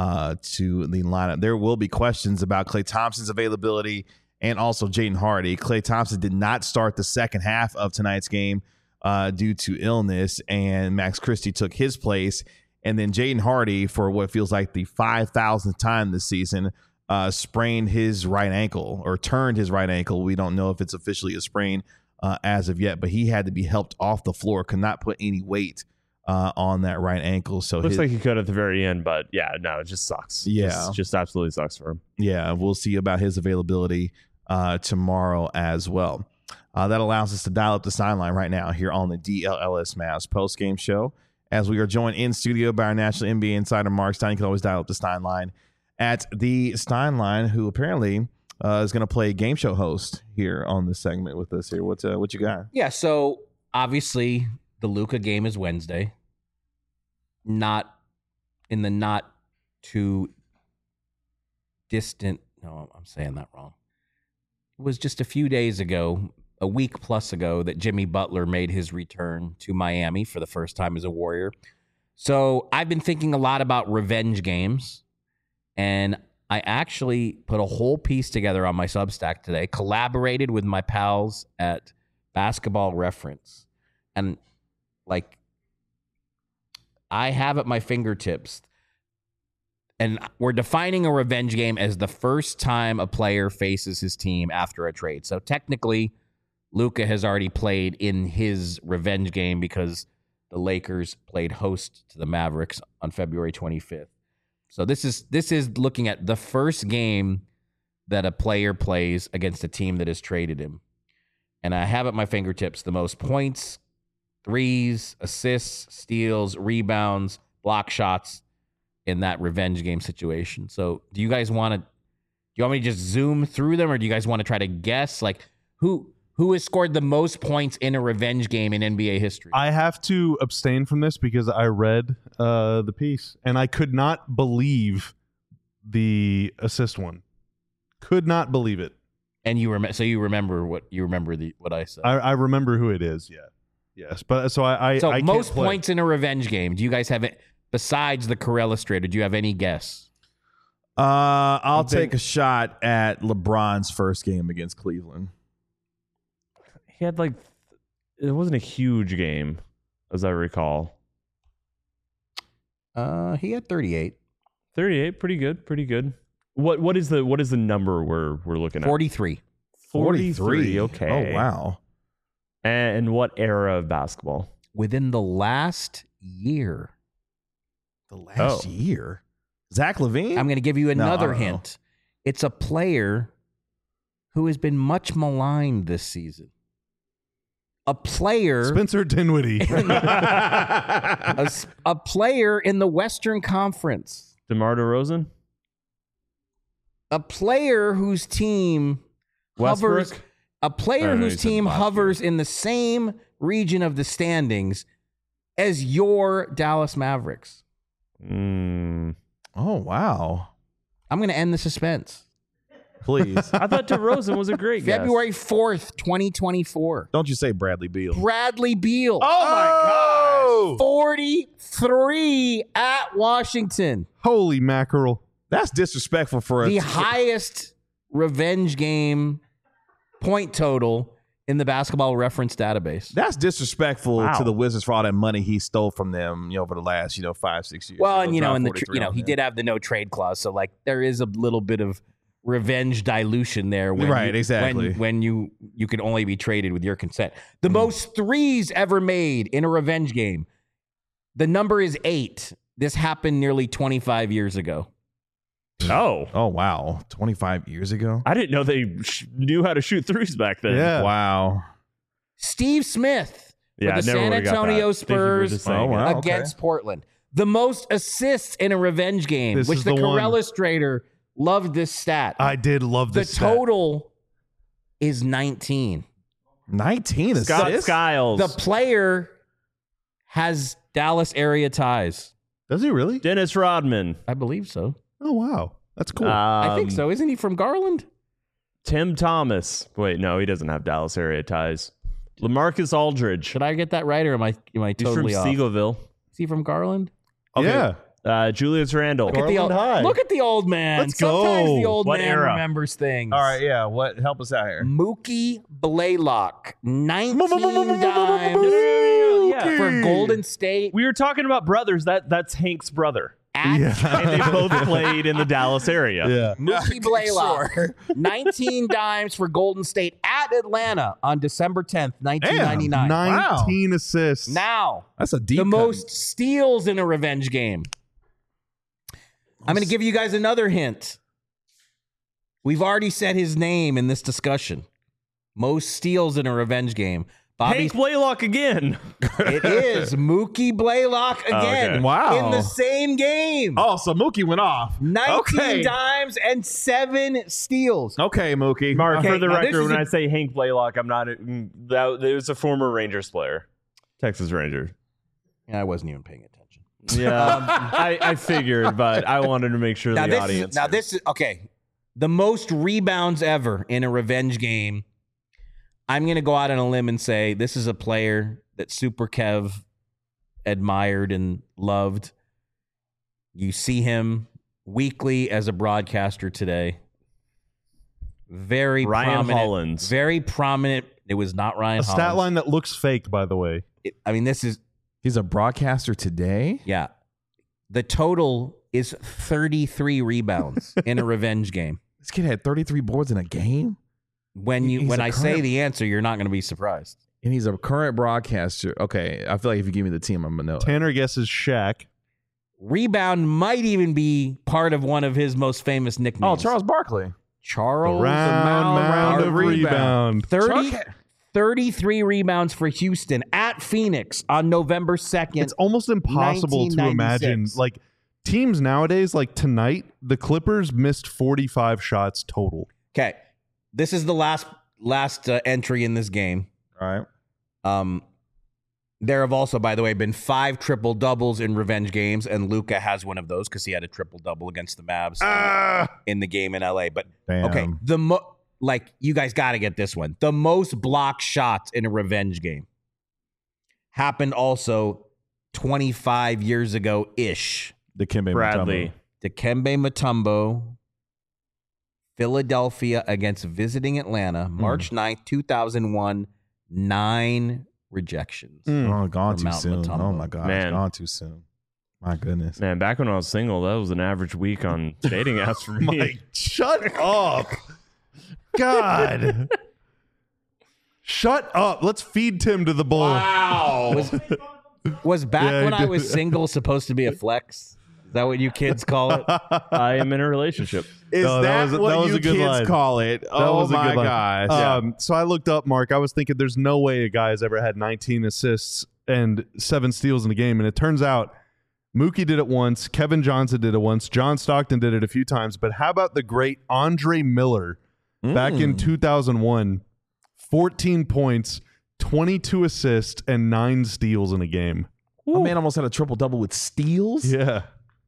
[SPEAKER 1] to the lineup. There will be questions about Klay Thompson's availability and also Jaden Hardy. Klay Thompson did not start the second half of tonight's game due to illness, and Max Christie took his place. And then Jaden Hardy, for what feels like the 5,000th time this season, sprained his right ankle or turned his right ankle. We don't know if it's officially a sprain as of yet, but he had to be helped off the floor, could not put any weight on that right ankle. So
[SPEAKER 2] looks like he could at the very end, but yeah, no, it just sucks.
[SPEAKER 1] Yeah.
[SPEAKER 2] Just absolutely sucks for him.
[SPEAKER 1] Yeah, we'll see about his availability tomorrow as well. That allows us to dial up the sideline right now here on the DLLS Mavs postgame show. As we are joined in studio by our national NBA insider, Mark Stein. You can always dial up the Stein line at the Stein line, who apparently is going to play game show host here on this segment with us here. What you got?
[SPEAKER 3] Yeah, so obviously the Luka game is Wednesday. Not too distant. No, I'm saying that wrong. It was just a few days ago, a week plus ago, that Jimmy Butler made his return to Miami for the first time as a Warrior. So I've been thinking a lot about revenge games, and I actually put a whole piece together on my Substack today, collaborated with my pals at Basketball Reference. And like, I have at my fingertips, and we're defining a revenge game as the first time a player faces his team after a trade. So technically, Luka has already played in his revenge game because the Lakers played host to the Mavericks on February 25th. So this is looking at the first game that a player plays against a team that has traded him. And I have at my fingertips the most points, threes, assists, steals, rebounds, block shots in that revenge game situation. So do you want me to just zoom through them, or do you guys want to try to guess like who has scored the most points in a revenge game in NBA history?
[SPEAKER 4] I have to abstain from this because I read the piece and I could not believe the assist one. Could not believe it.
[SPEAKER 3] And you remember what I said.
[SPEAKER 4] I remember who it is. Yeah. Yes, but so I
[SPEAKER 3] most points in a revenge game. Do you guys have it besides the Carell Illustrated? Do you have any guess?
[SPEAKER 1] I'll take a shot at LeBron's first game against Cleveland.
[SPEAKER 2] He had it wasn't a huge game, as I recall.
[SPEAKER 3] He had 38.
[SPEAKER 2] 38, pretty good. What is the number we're looking at?
[SPEAKER 3] 43.
[SPEAKER 2] 43. Okay.
[SPEAKER 1] Oh wow.
[SPEAKER 2] And what era of basketball?
[SPEAKER 3] Within the last year.
[SPEAKER 1] The last year? Zach LaVine?
[SPEAKER 3] I'm going to give you another hint. It's a player who has been much maligned this season. A player...
[SPEAKER 4] Spencer Dinwiddie.
[SPEAKER 3] a player in the Western Conference.
[SPEAKER 2] DeMar DeRozan?
[SPEAKER 3] A player whose team hovers...
[SPEAKER 2] Westbrook?
[SPEAKER 3] A player whose team hovers in the same region of the standings as your Dallas Mavericks.
[SPEAKER 1] Oh, wow.
[SPEAKER 3] I'm going to end the suspense.
[SPEAKER 1] Please.
[SPEAKER 2] I thought DeRozan was a great guess.
[SPEAKER 3] February 4th, 2024.
[SPEAKER 1] Don't you say Bradley Beal.
[SPEAKER 3] Bradley Beal.
[SPEAKER 1] Oh,
[SPEAKER 3] 43 at Washington.
[SPEAKER 4] Holy mackerel.
[SPEAKER 1] that's disrespectful for us.
[SPEAKER 3] The highest revenge game point total in the Basketball Reference database.
[SPEAKER 1] That's disrespectful
[SPEAKER 2] Wow.
[SPEAKER 1] to the Wizards for all that money he stole from them, over the last, 5-6 years.
[SPEAKER 3] Well,
[SPEAKER 1] He'll
[SPEAKER 3] and
[SPEAKER 1] drop
[SPEAKER 3] in the
[SPEAKER 1] 43 on
[SPEAKER 3] he
[SPEAKER 1] them.
[SPEAKER 3] did have the no trade clause, so like there is a little bit of revenge dilution there. When
[SPEAKER 1] Right, exactly.
[SPEAKER 3] When you can only be traded with your consent. The most threes ever made in a revenge game. The number is 8. This happened nearly 25 years ago.
[SPEAKER 2] Oh,
[SPEAKER 1] Oh wow, 25 years ago.
[SPEAKER 2] I didn't know they knew how to shoot threes back then.
[SPEAKER 4] Yeah.
[SPEAKER 1] Wow.
[SPEAKER 3] Steve Smith for
[SPEAKER 2] Yeah, I
[SPEAKER 3] the
[SPEAKER 2] never
[SPEAKER 3] San
[SPEAKER 2] would've got
[SPEAKER 3] Antonio
[SPEAKER 2] that. Thank you for
[SPEAKER 3] Spurs
[SPEAKER 2] just saying
[SPEAKER 1] Oh,
[SPEAKER 2] it.
[SPEAKER 1] wow.
[SPEAKER 3] against Portland. The most assists in a revenge game,
[SPEAKER 4] This
[SPEAKER 3] which
[SPEAKER 4] is
[SPEAKER 3] the
[SPEAKER 4] the one.
[SPEAKER 3] Illustrator loved this stat.
[SPEAKER 4] I did love
[SPEAKER 3] The
[SPEAKER 4] this stat.
[SPEAKER 3] total is 19.
[SPEAKER 1] 19
[SPEAKER 2] Scott
[SPEAKER 1] assists.
[SPEAKER 2] Skiles.
[SPEAKER 3] The player has Dallas area ties.
[SPEAKER 4] Does he really?
[SPEAKER 2] Dennis Rodman.
[SPEAKER 3] I believe so.
[SPEAKER 4] Oh, wow. That's cool.
[SPEAKER 3] I think so. Isn't he from Garland?
[SPEAKER 2] Tim Thomas. Wait, no, he doesn't have Dallas area ties. LaMarcus Aldridge.
[SPEAKER 3] Should I get that right, or am I
[SPEAKER 2] He's
[SPEAKER 3] totally
[SPEAKER 2] from
[SPEAKER 3] off?
[SPEAKER 2] Seagoville.
[SPEAKER 3] Is he from Garland?
[SPEAKER 4] Yeah.
[SPEAKER 2] Julius Randle.
[SPEAKER 3] Look at the old,
[SPEAKER 4] High.
[SPEAKER 3] look at the old man.
[SPEAKER 4] Let's go.
[SPEAKER 3] Sometimes the old
[SPEAKER 2] What
[SPEAKER 3] man
[SPEAKER 2] era?
[SPEAKER 3] remembers things.
[SPEAKER 1] All right, yeah. What? Help us out here.
[SPEAKER 3] Mookie Blaylock, 19 dimes
[SPEAKER 2] Yeah.
[SPEAKER 3] for Golden State.
[SPEAKER 2] We were talking about brothers. That's Hank's brother.
[SPEAKER 3] At
[SPEAKER 2] And they both played in the Dallas area.
[SPEAKER 4] Yeah.
[SPEAKER 3] Mookie Blaylock, 19 dimes for Golden State at Atlanta on December 10th, 1999.
[SPEAKER 4] 19 assists.
[SPEAKER 3] Now,
[SPEAKER 1] That's a deep
[SPEAKER 3] the
[SPEAKER 1] cut.
[SPEAKER 3] most steals in a revenge game. I'm going to give you guys another hint. We've already said his name in this discussion. Most steals in a revenge game. Bobby,
[SPEAKER 2] Hank Blaylock again.
[SPEAKER 3] it is Mookie Blaylock again.
[SPEAKER 2] okay.
[SPEAKER 1] Wow.
[SPEAKER 3] In the same game.
[SPEAKER 1] Oh, so Mookie went off.
[SPEAKER 3] 19
[SPEAKER 1] Okay.
[SPEAKER 3] dimes and 7 steals.
[SPEAKER 1] Okay, Mookie.
[SPEAKER 2] Mark,
[SPEAKER 3] Okay,
[SPEAKER 2] for the
[SPEAKER 3] now this
[SPEAKER 2] record,
[SPEAKER 3] is
[SPEAKER 2] when
[SPEAKER 3] a-
[SPEAKER 2] I say Hank Blaylock, I'm not. That it was a former Rangers player, Texas Ranger.
[SPEAKER 3] I wasn't even paying attention.
[SPEAKER 2] Yeah, I figured, but I wanted to make sure the audience.
[SPEAKER 3] This is okay. The most rebounds ever in a revenge game. I'm going to go out on a limb and say this is a player that Super Kev admired and loved. You see him weekly as a broadcaster today. Very
[SPEAKER 2] Ryan
[SPEAKER 3] prominent.
[SPEAKER 2] Hollins.
[SPEAKER 3] Very prominent. It was not Ryan
[SPEAKER 4] A
[SPEAKER 3] Hollins.
[SPEAKER 4] stat line that looks fake, by the way.
[SPEAKER 3] This is,
[SPEAKER 1] He's a broadcaster today.
[SPEAKER 3] yeah. The total is 33 rebounds in a revenge game.
[SPEAKER 1] This kid had 33 boards in a game, He's
[SPEAKER 3] When
[SPEAKER 1] a
[SPEAKER 3] I say
[SPEAKER 1] current-
[SPEAKER 3] the answer, you're not going to be surprised.
[SPEAKER 1] and he's a current broadcaster. Okay, I feel like if you give me the team, I'm gonna know.
[SPEAKER 4] Tanner guesses Shaq.
[SPEAKER 3] Rebound might even be part of one of his most famous
[SPEAKER 1] Oh,
[SPEAKER 3] nicknames.
[SPEAKER 1] Charles Barkley.
[SPEAKER 3] Charles
[SPEAKER 4] Round of rebound.
[SPEAKER 3] 33 rebounds for Houston at Phoenix on November 2nd.
[SPEAKER 4] It's almost impossible to imagine.
[SPEAKER 3] 1996.
[SPEAKER 4] Like teams nowadays, like tonight, the Clippers missed 45 shots total.
[SPEAKER 3] Okay. This is the last entry in this game.
[SPEAKER 1] All right.
[SPEAKER 3] There have also, by the way, been 5 triple doubles in revenge games, and Luka has one of those because he had a triple double against the Mavs in the game in LA. But
[SPEAKER 1] Damn.
[SPEAKER 3] okay, you guys got to get this one. The most blocked shots in a revenge game happened also 25 years ago ish.
[SPEAKER 1] Dikembe
[SPEAKER 2] Bradley.
[SPEAKER 3] Dikembe Mutombo, Philadelphia against visiting Atlanta, March 9th, 2001, 9 rejections.
[SPEAKER 1] Mutombo. Oh, gone
[SPEAKER 3] From
[SPEAKER 1] too
[SPEAKER 3] Mount
[SPEAKER 1] soon.
[SPEAKER 3] Mutombo.
[SPEAKER 1] Oh my God,
[SPEAKER 2] Man.
[SPEAKER 1] gone too soon. My goodness.
[SPEAKER 2] Man, back when I was single, that was an average week on dating apps for me.
[SPEAKER 4] Mike, shut up. God. Shut up. Let's feed Tim to the bull.
[SPEAKER 3] Was back
[SPEAKER 4] Yeah,
[SPEAKER 3] when
[SPEAKER 4] he
[SPEAKER 3] I
[SPEAKER 4] did.
[SPEAKER 3] was single supposed to be a flex? Is that what you kids call it?
[SPEAKER 2] I am in a relationship.
[SPEAKER 1] Is
[SPEAKER 4] No, that
[SPEAKER 1] that,
[SPEAKER 4] was-
[SPEAKER 1] what
[SPEAKER 4] that was
[SPEAKER 1] you
[SPEAKER 4] a good
[SPEAKER 1] kids
[SPEAKER 4] line.
[SPEAKER 1] call it?
[SPEAKER 4] That
[SPEAKER 1] Oh
[SPEAKER 4] was a
[SPEAKER 1] my
[SPEAKER 4] good line.
[SPEAKER 1] gosh.
[SPEAKER 4] So I looked up, Mark. I was thinking there's no way a guy's ever had 19 assists and 7 steals in a game. And it turns out Mookie did it once. Kevin Johnson did it once. John Stockton did it a few times. But how about the great Andre Miller back in 2001? 14 points, 22 assists, and 9 steals in a game.
[SPEAKER 1] My man almost had a triple double with steals.
[SPEAKER 4] Yeah.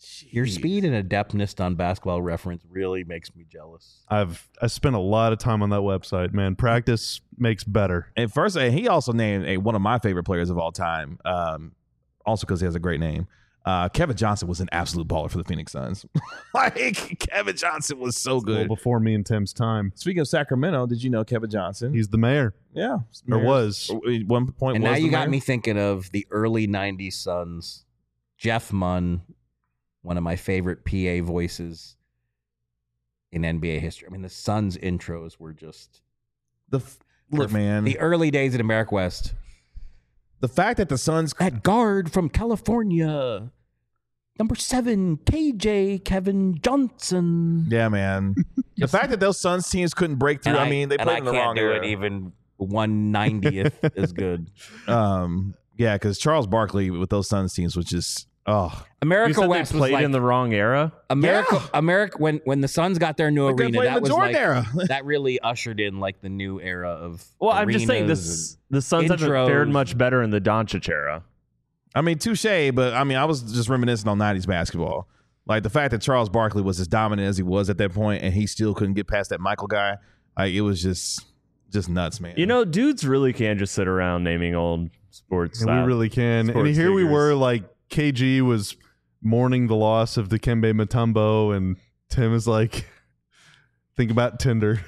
[SPEAKER 3] Your speed and adeptness on Basketball Reference really makes me jealous.
[SPEAKER 4] I spent a lot of time on that website, man. Practice makes better.
[SPEAKER 1] And first, he also named one of my favorite players of all time, also because he has a great name. Kevin Johnson was an absolute baller for the Phoenix Suns. Like, Kevin Johnson was so good.
[SPEAKER 4] Well, before me and Tim's time.
[SPEAKER 1] Speaking of Sacramento, did you know Kevin Johnson?
[SPEAKER 4] He's the mayor.
[SPEAKER 1] Yeah.
[SPEAKER 4] Or was.
[SPEAKER 1] At one point,
[SPEAKER 3] And
[SPEAKER 1] was
[SPEAKER 3] now
[SPEAKER 1] the
[SPEAKER 3] you got
[SPEAKER 1] mayor.
[SPEAKER 3] me thinking of the early 90s Suns. Jeff Munn, one of my favorite PA voices in NBA history. I mean, the Suns intros were just...
[SPEAKER 1] Look, man.
[SPEAKER 3] The early days at America West.
[SPEAKER 1] The fact that the Suns...
[SPEAKER 3] That guard from California, number 7, KJ Kevin Johnson.
[SPEAKER 1] Yeah, man. The fact that those Suns teams couldn't break through, they played in the wrong era.
[SPEAKER 3] Even 1/90th is good.
[SPEAKER 1] Yeah, because Charles Barkley with those Suns teams was just... Oh,
[SPEAKER 3] America
[SPEAKER 2] You said
[SPEAKER 3] West
[SPEAKER 2] they
[SPEAKER 3] was
[SPEAKER 2] played
[SPEAKER 3] like
[SPEAKER 2] in the wrong era.
[SPEAKER 3] America. When the Suns got their new
[SPEAKER 1] they
[SPEAKER 3] arena,
[SPEAKER 1] played in
[SPEAKER 3] that
[SPEAKER 1] the
[SPEAKER 3] was
[SPEAKER 1] Jordan
[SPEAKER 3] like
[SPEAKER 1] era.
[SPEAKER 3] that really ushered in like the new era of.
[SPEAKER 2] Well, I'm just saying
[SPEAKER 3] arenas
[SPEAKER 2] the Suns haven't
[SPEAKER 3] intros.
[SPEAKER 2] fared much better in the Doncic era.
[SPEAKER 1] I mean, touche, but I mean, I was just reminiscing on 90s basketball. Like the fact that Charles Barkley was as dominant as he was at that point, and he still couldn't get past that Michael guy. Like, it was just nuts, man.
[SPEAKER 2] You know, dudes really can just sit around naming old sports.
[SPEAKER 4] And we really can. And
[SPEAKER 2] sports
[SPEAKER 4] here we
[SPEAKER 2] figures.
[SPEAKER 4] were, like, KG was mourning the loss of Dikembe Mutombo, and Tim is like, think about Tinder.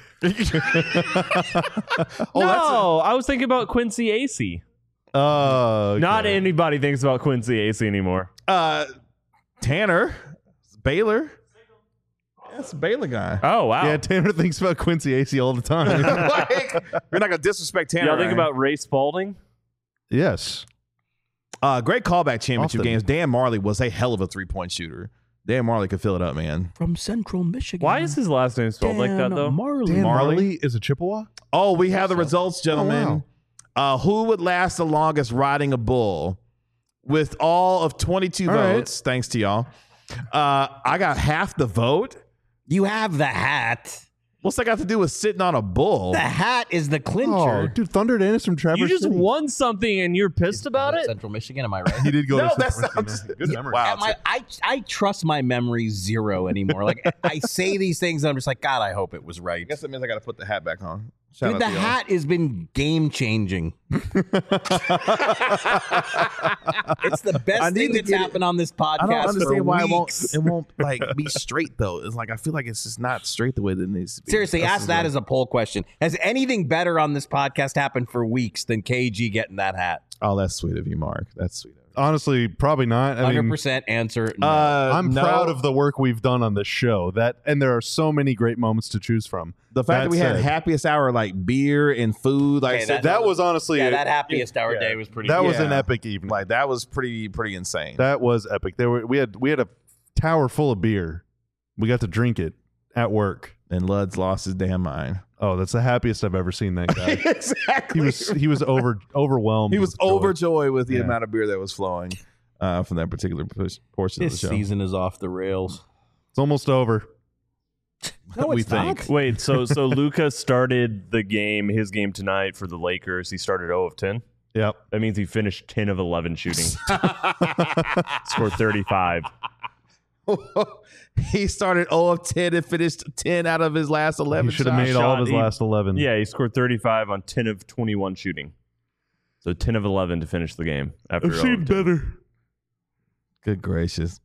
[SPEAKER 2] No, I was thinking about Quincy Acey.
[SPEAKER 4] Okay.
[SPEAKER 2] Not anybody thinks about Quincy Acey anymore.
[SPEAKER 1] Tanner, Baylor. That's a Baylor guy.
[SPEAKER 2] Oh, wow.
[SPEAKER 4] Yeah, Tanner thinks about Quincy Acey all the time.
[SPEAKER 1] Like, you're not gonna disrespect Tanner.
[SPEAKER 2] Y'all think
[SPEAKER 1] right?
[SPEAKER 2] about Ray Spalding?
[SPEAKER 4] Yes.
[SPEAKER 1] Great callback championship
[SPEAKER 4] Often.
[SPEAKER 1] games. Dan Marley was a hell of a 3-point shooter. Dan Marley could fill it up, man.
[SPEAKER 3] from Central Michigan.
[SPEAKER 2] Why is his last name spelled like that, though?
[SPEAKER 3] Marley.
[SPEAKER 4] Dan
[SPEAKER 1] Marley?
[SPEAKER 4] Marley is a Chippewa?
[SPEAKER 1] Oh, we have the results, gentlemen. Who would last the longest riding a bull? With all of 22
[SPEAKER 4] All right.
[SPEAKER 1] votes, thanks to y'all. I got half the vote.
[SPEAKER 3] You have the hat.
[SPEAKER 1] What's that got to do with sitting on a bull?
[SPEAKER 3] The hat is the
[SPEAKER 4] Oh,
[SPEAKER 3] clincher.
[SPEAKER 4] dude, Thunder Dennis from Traverse
[SPEAKER 2] You just
[SPEAKER 4] City.
[SPEAKER 2] won something and you're pissed about it?
[SPEAKER 3] Central Michigan, am I right?
[SPEAKER 4] He did go
[SPEAKER 1] No,
[SPEAKER 4] to
[SPEAKER 1] that's
[SPEAKER 4] Central
[SPEAKER 1] not-
[SPEAKER 4] Michigan. Good memory.
[SPEAKER 1] Wow.
[SPEAKER 3] I trust my memory zero anymore. Like I say these things and I'm just like, God, I hope it was right.
[SPEAKER 1] I guess that means I got to put the hat back on. Shout
[SPEAKER 3] Dude,
[SPEAKER 1] out
[SPEAKER 3] the
[SPEAKER 1] to y'all.
[SPEAKER 3] hat has been game changing. It's the best
[SPEAKER 1] I need
[SPEAKER 3] thing
[SPEAKER 1] to
[SPEAKER 3] that's
[SPEAKER 1] get it-
[SPEAKER 3] happened on this podcast.
[SPEAKER 1] I don't
[SPEAKER 3] for
[SPEAKER 1] understand why
[SPEAKER 3] weeks.
[SPEAKER 1] it won't like be straight though. It's like I feel like it's just not straight the way that it needs to be.
[SPEAKER 3] Seriously,
[SPEAKER 1] That's
[SPEAKER 3] ask
[SPEAKER 1] just
[SPEAKER 3] that
[SPEAKER 1] like-
[SPEAKER 3] as a poll question. Has anything better on this podcast happened for weeks than KG getting that hat?
[SPEAKER 1] Oh, that's sweet of you, Mark. That's sweet of you.
[SPEAKER 4] Honestly, probably not. I mean,
[SPEAKER 3] 100% answer. No.
[SPEAKER 4] I'm
[SPEAKER 1] no.
[SPEAKER 4] proud of the work we've done on this show. And there are so many great moments to choose from.
[SPEAKER 1] The fact that we had
[SPEAKER 4] said,
[SPEAKER 1] happiest hour like beer and food, like
[SPEAKER 3] Okay,
[SPEAKER 1] said,
[SPEAKER 4] that was honestly
[SPEAKER 3] yeah, that happiest hour day was pretty.
[SPEAKER 4] that
[SPEAKER 3] good.
[SPEAKER 4] was an
[SPEAKER 1] Yeah.
[SPEAKER 4] epic evening.
[SPEAKER 1] like that was pretty insane.
[SPEAKER 4] That was epic. We had a tower full of beer. We got to drink it at work.
[SPEAKER 1] And Lud's lost his damn mind.
[SPEAKER 4] Oh, that's the happiest I've ever seen that guy.
[SPEAKER 1] Exactly.
[SPEAKER 4] he was overwhelmed.
[SPEAKER 1] He was
[SPEAKER 4] with joy.
[SPEAKER 1] overjoyed with the
[SPEAKER 4] Yeah.
[SPEAKER 1] amount of beer that was flowing from that particular portion
[SPEAKER 3] This
[SPEAKER 1] of the show.
[SPEAKER 3] season is off the rails.
[SPEAKER 4] It's almost over.
[SPEAKER 3] No,
[SPEAKER 1] we
[SPEAKER 3] it's
[SPEAKER 1] think.
[SPEAKER 3] not.
[SPEAKER 2] Wait, so Luka started his game tonight for the Lakers. He started 0 of 10.
[SPEAKER 4] Yep.
[SPEAKER 2] That means he finished 10 of 11 shooting. Scored 35.
[SPEAKER 1] He started 0 of 10 and finished 10 out of his last 11
[SPEAKER 4] He should have
[SPEAKER 1] shots.
[SPEAKER 4] made all of his
[SPEAKER 2] He-
[SPEAKER 4] last 11.
[SPEAKER 2] Yeah, he scored 35 on 10 of 21 shooting. So 10 of 11 to finish the game after 0 of 10.
[SPEAKER 4] better.
[SPEAKER 1] Good gracious.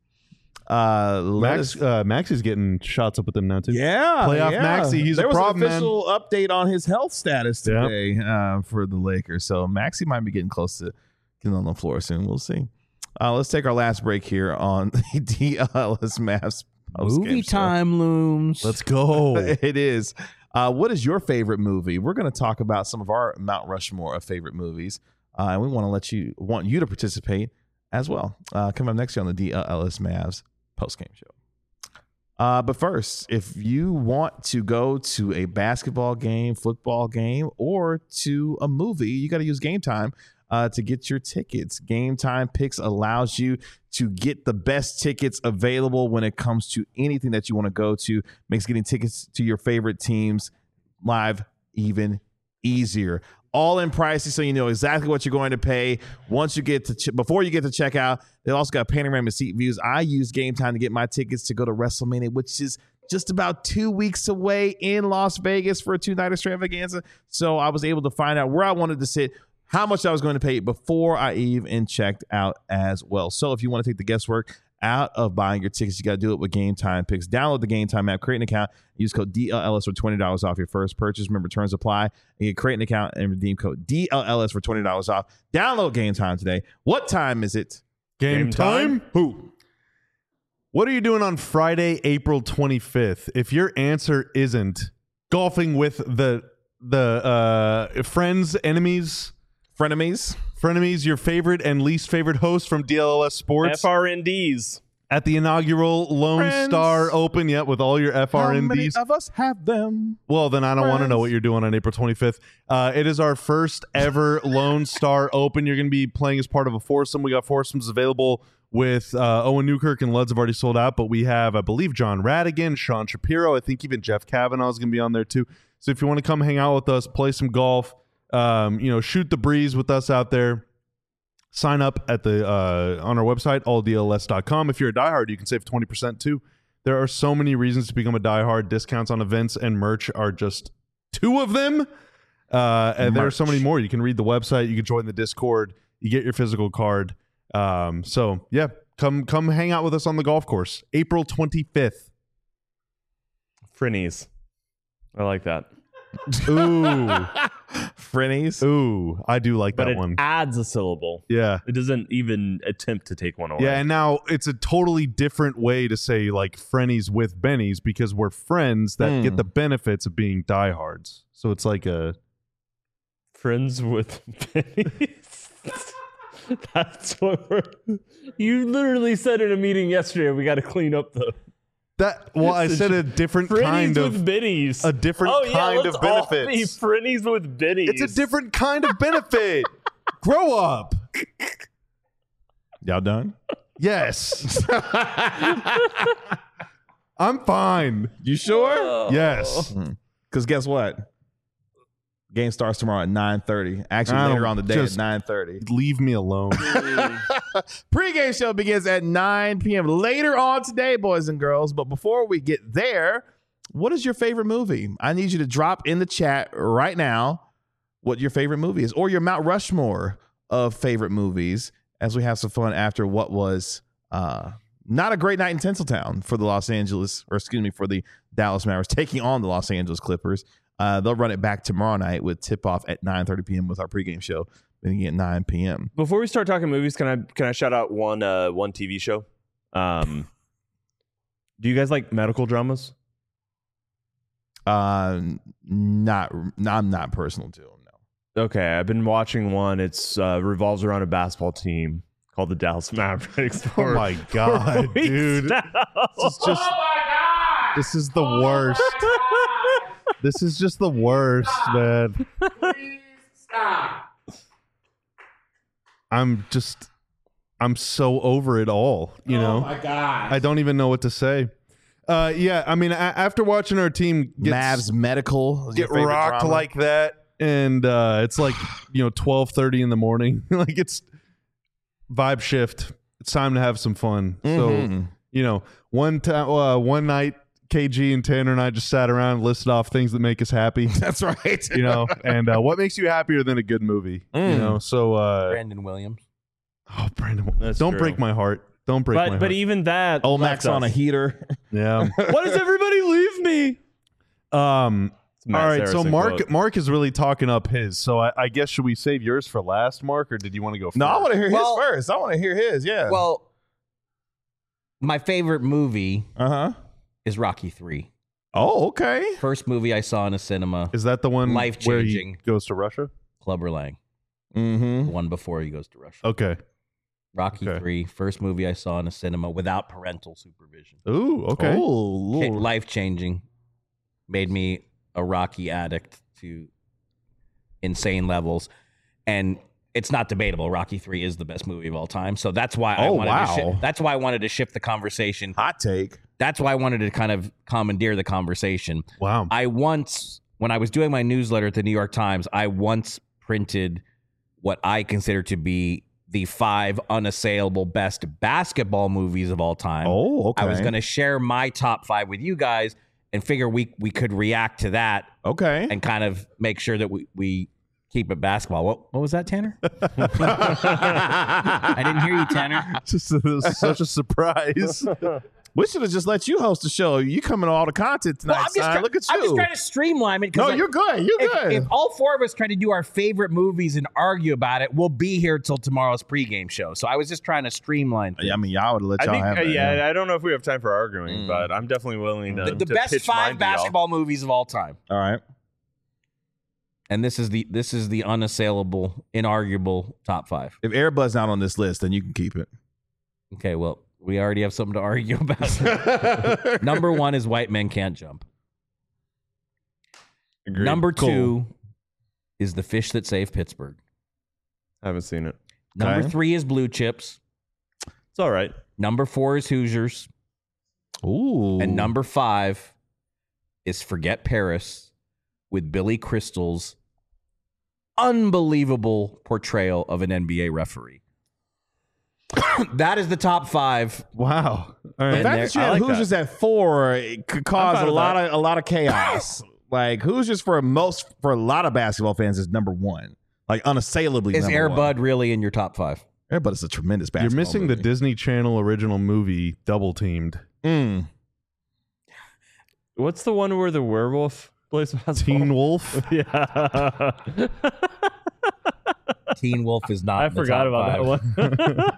[SPEAKER 4] Maxi's getting shots up with them now too.
[SPEAKER 1] Yeah,
[SPEAKER 4] Playoff
[SPEAKER 1] yeah.
[SPEAKER 4] Maxey, he's a
[SPEAKER 1] there was
[SPEAKER 4] problem,
[SPEAKER 1] an
[SPEAKER 4] man.
[SPEAKER 1] official update on his health status
[SPEAKER 4] Yeah.
[SPEAKER 1] today for the Lakers. So Maxey might be getting close to getting on the floor soon. We'll see. Let's take our last break here on the DLS Mavs post-game
[SPEAKER 3] Movie
[SPEAKER 1] show.
[SPEAKER 3] time looms.
[SPEAKER 4] Let's go.
[SPEAKER 1] It is. What is your favorite movie? We're going to talk about some of our Mount Rushmore of favorite movies, and we want you to participate as well. Coming up next year on the DLS Mavs post-game show. But first, if you want to go to a basketball game, football game, or to a movie, you got to use Game Time to get your tickets. Game Time Picks allows you to get the best tickets available when it comes to anything that you want to go to. Makes getting tickets to your favorite teams live even easier. all in pricing, so you know exactly what you're going to pay once you get to before you get to checkout. They also got panoramic seat views. I used Game Time to get my tickets to go to WrestleMania, which is just about 2 weeks away in Las Vegas for a 2-night extravaganza. So I was able to find out where I wanted to sit, how much I was going to pay before I even checked out as well. So if you want to take the guesswork out of buying your tickets, you got to do it with Game Time picks. Download the Game Time app, create an account, use code DLLS for $20 off your first purchase. Remember, terms apply. And you create an account and redeem code DLLS for $20 off. Download Game Time today. What time is it?
[SPEAKER 4] Game time? Who? What are you doing on Friday, April 25th? If your answer isn't golfing with the friends, enemies, frenemies, your favorite and least favorite host from DLLS Sports
[SPEAKER 2] FRNDs
[SPEAKER 4] at the inaugural Lone Star Open, with all your FRNDs.
[SPEAKER 1] How many of us have them?
[SPEAKER 4] Well, then I don't want to know what you're doing on April 25th. It is our first ever Lone Star Open. You're going to be playing as part of a foursome. We got foursomes available with Owen Newkirk and Luds have already sold out, but we have, I believe, John Radigan, Sean Shapiro. I think even Jeff Kavanaugh is going to be on there too. So if you want to come hang out with us, play some golf, shoot the breeze with us out there, sign up at the on our website, alldls.com. If you're a diehard, you can save 20% too. There are so many reasons to become a diehard. Discounts on events and merch are just 2 of them. And there are so many more. You can read the website. You can join the Discord. You get your physical card. So yeah, come hang out with us on the golf course, April 25th.
[SPEAKER 2] Frinnies. I like that.
[SPEAKER 4] Ooh.
[SPEAKER 1] Frinnies.
[SPEAKER 4] Ooh, I do like
[SPEAKER 2] But
[SPEAKER 4] that
[SPEAKER 2] it
[SPEAKER 4] one.
[SPEAKER 2] adds a syllable.
[SPEAKER 4] Yeah.
[SPEAKER 2] It doesn't even attempt to take one away.
[SPEAKER 4] Yeah, and now it's a totally different way to say like Frennies with Bennies because we're friends that get the benefits of being diehards. So it's like a
[SPEAKER 2] Friends with pennies. That's what you literally said in a meeting yesterday. We got to clean up the
[SPEAKER 4] I said a different kind of
[SPEAKER 2] with biddies.
[SPEAKER 4] A different kind of benefits.
[SPEAKER 2] Frennies with biddies.
[SPEAKER 4] It's a different kind of benefit. Grow up.
[SPEAKER 1] Y'all done?
[SPEAKER 4] Yes. I'm fine.
[SPEAKER 1] You sure?
[SPEAKER 4] Yes.
[SPEAKER 1] Because guess what? Game starts tomorrow at 9:30. Actually, later on the day at 9:30.
[SPEAKER 4] Leave me alone.
[SPEAKER 1] Pre-game show begins at 9 p.m. later on today, boys and girls. But before we get there, what is your favorite movie? I need you to drop in the chat right now what your favorite movie is, or your Mount Rushmore of favorite movies, as we have some fun after what was not a great night in Tinseltown for the for the Dallas Mavericks taking on the Los Angeles Clippers. They'll run it back tomorrow night with tip-off at 9:30 p.m. with our pregame show beginning at 9 p.m.
[SPEAKER 2] Before we start talking movies, can I shout out one TV show? Do you guys like medical dramas?
[SPEAKER 1] I'm not personal to them, no.
[SPEAKER 2] Okay, I've been watching one. It's revolves around a basketball team called the Dallas Mavericks.
[SPEAKER 4] Oh my god, dude! This is the worst. This is just the worst, man.
[SPEAKER 5] Please stop.
[SPEAKER 4] I'm so over it all, you know?
[SPEAKER 5] Oh my God.
[SPEAKER 4] I don't even know what to say. Yeah, I mean, after watching our team
[SPEAKER 1] Mavs medical
[SPEAKER 4] get rocked
[SPEAKER 1] drama?
[SPEAKER 4] like that, and it's like, 12:30 in the morning, like it's vibe shift. It's time to have some fun. So, one night, KG and Tanner and I just sat around and listed off things that make us happy.
[SPEAKER 1] That's right.
[SPEAKER 4] And what makes you happier than a good movie? So
[SPEAKER 3] Brandon Williams.
[SPEAKER 4] Oh, Brandon,
[SPEAKER 2] That's
[SPEAKER 4] don't
[SPEAKER 2] true.
[SPEAKER 4] break my heart. Don't break my heart.
[SPEAKER 2] But even that,
[SPEAKER 1] Olmecs on a heater.
[SPEAKER 4] Yeah.
[SPEAKER 2] Why does everybody leave me?
[SPEAKER 4] All right, so
[SPEAKER 2] Saracen
[SPEAKER 4] Mark is really talking up his. So I guess should we save yours for last, Mark, or did you want to go first?
[SPEAKER 1] No, I want to hear his first. I want to hear his. Yeah.
[SPEAKER 3] Well, my favorite movie
[SPEAKER 1] is
[SPEAKER 3] Rocky 3.
[SPEAKER 1] Oh, okay.
[SPEAKER 3] First movie I saw in a cinema.
[SPEAKER 4] Is that the one where he
[SPEAKER 3] Life-changing.
[SPEAKER 4] goes to Russia?
[SPEAKER 3] Clubber Lang.
[SPEAKER 1] Mm-hmm.
[SPEAKER 3] The one before he goes to Russia.
[SPEAKER 4] Okay.
[SPEAKER 3] Rocky 3, first movie I saw in a cinema without parental supervision.
[SPEAKER 4] Ooh, okay.
[SPEAKER 1] Oh, Lord.
[SPEAKER 3] Life-changing. Made me a Rocky addict to insane levels. And it's not debatable. Rocky 3 is the best movie of all time. So that's why I wanted to shift the conversation.
[SPEAKER 1] Hot take.
[SPEAKER 3] That's why I wanted to kind of commandeer the conversation.
[SPEAKER 4] Wow.
[SPEAKER 3] When I was doing my newsletter at the New York Times, I once printed what I consider to be the 5 unassailable best basketball movies of all time.
[SPEAKER 1] Oh, okay.
[SPEAKER 3] I was going to share my top 5 with you guys and figure we could react to that
[SPEAKER 1] Okay.
[SPEAKER 3] and kind of make sure that we keep it basketball. What was that, Tanner? I didn't hear you, Tanner.
[SPEAKER 4] Just such a surprise.
[SPEAKER 1] We should have just let you host the show. You coming on all the content tonight, son. Look at you.
[SPEAKER 3] I'm just trying to streamline it.
[SPEAKER 1] No, you're good. You're good.
[SPEAKER 3] If all 4 of us try to do our favorite movies and argue about it, we'll be here till tomorrow's pregame show. So I was just trying to streamline things.
[SPEAKER 1] I mean, y'all would let
[SPEAKER 2] I
[SPEAKER 1] y'all
[SPEAKER 2] think,
[SPEAKER 1] have it.
[SPEAKER 2] I don't know if we have time for arguing, but I'm definitely willing to
[SPEAKER 3] The
[SPEAKER 2] to
[SPEAKER 3] best
[SPEAKER 2] pitch
[SPEAKER 3] 5
[SPEAKER 2] mine to y'all.
[SPEAKER 3] basketball movies of all time.
[SPEAKER 1] All right.
[SPEAKER 3] And this is the unassailable, inarguable top 5.
[SPEAKER 1] If Airbud's not on this list, then you can keep it.
[SPEAKER 3] Okay, well, we already have something to argue about. Number 1 is White Men Can't Jump.
[SPEAKER 2] Agreed.
[SPEAKER 3] Number
[SPEAKER 2] Cool.
[SPEAKER 3] 2 is The Fish That Saved Pittsburgh.
[SPEAKER 2] I haven't seen it.
[SPEAKER 3] Number
[SPEAKER 1] Okay.
[SPEAKER 3] 3 is Blue Chips.
[SPEAKER 2] It's all right.
[SPEAKER 3] Number 4 is Hoosiers.
[SPEAKER 1] Ooh.
[SPEAKER 3] And number 5 is Forget Paris with Billy Crystal's unbelievable portrayal of an NBA referee. That is the top 5.
[SPEAKER 4] Wow. All
[SPEAKER 1] The
[SPEAKER 4] right.
[SPEAKER 1] fact that you
[SPEAKER 2] I
[SPEAKER 1] had
[SPEAKER 2] like
[SPEAKER 1] Hoosiers at 4 it could cause
[SPEAKER 2] fine
[SPEAKER 1] a
[SPEAKER 2] with
[SPEAKER 1] lot of chaos. Like Hoosiers for a lot of basketball fans is number 1. Like unassailably
[SPEAKER 3] Is
[SPEAKER 1] number
[SPEAKER 3] Air
[SPEAKER 1] 1.
[SPEAKER 3] Bud really in your top 5?
[SPEAKER 1] Air Bud is a tremendous
[SPEAKER 4] You're
[SPEAKER 1] basketball
[SPEAKER 4] missing the
[SPEAKER 1] movie.
[SPEAKER 4] Disney Channel original movie Double Teamed.
[SPEAKER 2] What's the one where the werewolf plays basketball?
[SPEAKER 4] Teen Wolf.
[SPEAKER 2] Yeah.
[SPEAKER 3] Teen Wolf is not
[SPEAKER 2] I
[SPEAKER 3] in the
[SPEAKER 2] forgot
[SPEAKER 3] top
[SPEAKER 2] about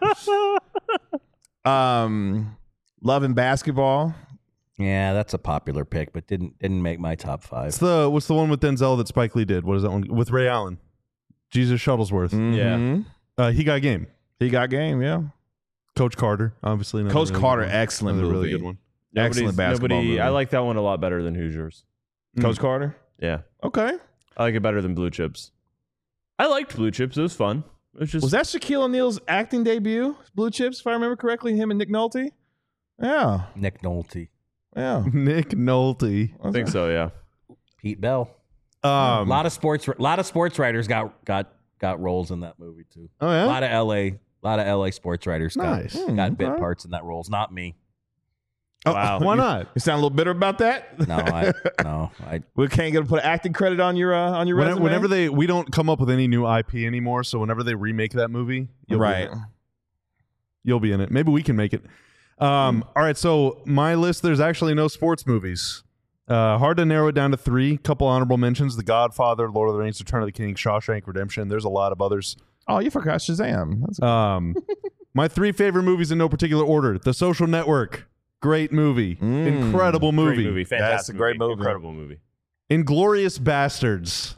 [SPEAKER 3] 5.
[SPEAKER 2] that one.
[SPEAKER 1] Love and Basketball.
[SPEAKER 3] Yeah, that's a popular pick, but didn't make my top 5.
[SPEAKER 4] What's the one with Denzel that Spike Lee did? What is that one with Ray Allen? Jesus Shuttlesworth.
[SPEAKER 1] Mhm.
[SPEAKER 4] He got game.
[SPEAKER 1] He got game, yeah.
[SPEAKER 4] Coach Carter, obviously. another
[SPEAKER 1] Coach
[SPEAKER 4] really
[SPEAKER 1] Carter,
[SPEAKER 4] good one.
[SPEAKER 1] excellent
[SPEAKER 4] Another
[SPEAKER 1] movie.
[SPEAKER 4] really good one.
[SPEAKER 1] Excellent basketball movie.
[SPEAKER 2] I like that one a lot better than Hoosiers.
[SPEAKER 1] Coach Carter.
[SPEAKER 2] Yeah.
[SPEAKER 1] Okay.
[SPEAKER 2] I like it better than Blue Chips. I liked Blue Chips. It was fun. It was just
[SPEAKER 1] Was that Shaquille O'Neal's acting debut? Blue Chips, if I remember correctly, him and Nick Nolte. Yeah,
[SPEAKER 3] Nick Nolte,
[SPEAKER 1] yeah.
[SPEAKER 4] Nick Nolte.
[SPEAKER 2] I think so, yeah.
[SPEAKER 3] Pete Bell. A
[SPEAKER 4] Um,
[SPEAKER 3] lot of sports writers got roles in that movie too.
[SPEAKER 4] oh yeah.
[SPEAKER 3] A lot of LA sports writers
[SPEAKER 4] Nice.
[SPEAKER 3] got bit
[SPEAKER 1] Okay.
[SPEAKER 3] parts in that roles. Not me.
[SPEAKER 4] Oh,
[SPEAKER 2] Wow.
[SPEAKER 4] Why not?
[SPEAKER 1] You sound a little bitter about that.
[SPEAKER 3] No, I
[SPEAKER 1] We can't get to put an acting credit on your resume.
[SPEAKER 4] Whenever we don't come up with any new IP anymore, so whenever they remake that movie,
[SPEAKER 1] right.
[SPEAKER 4] you'll be in it. Maybe we can make it. All right, so my list, there's actually no sports movies. Hard to narrow it down to 3. Couple honorable mentions: The Godfather, Lord of the Rings, Return of the King, Shawshank Redemption. There's a lot of others.
[SPEAKER 1] Oh, you forgot Shazam. That's
[SPEAKER 4] My 3 favorite movies in no particular order: The Social Network, great movie, incredible movie.
[SPEAKER 2] Great movie. Fantastic
[SPEAKER 1] That's a great movie.
[SPEAKER 2] Incredible movie.
[SPEAKER 4] Inglorious Bastards,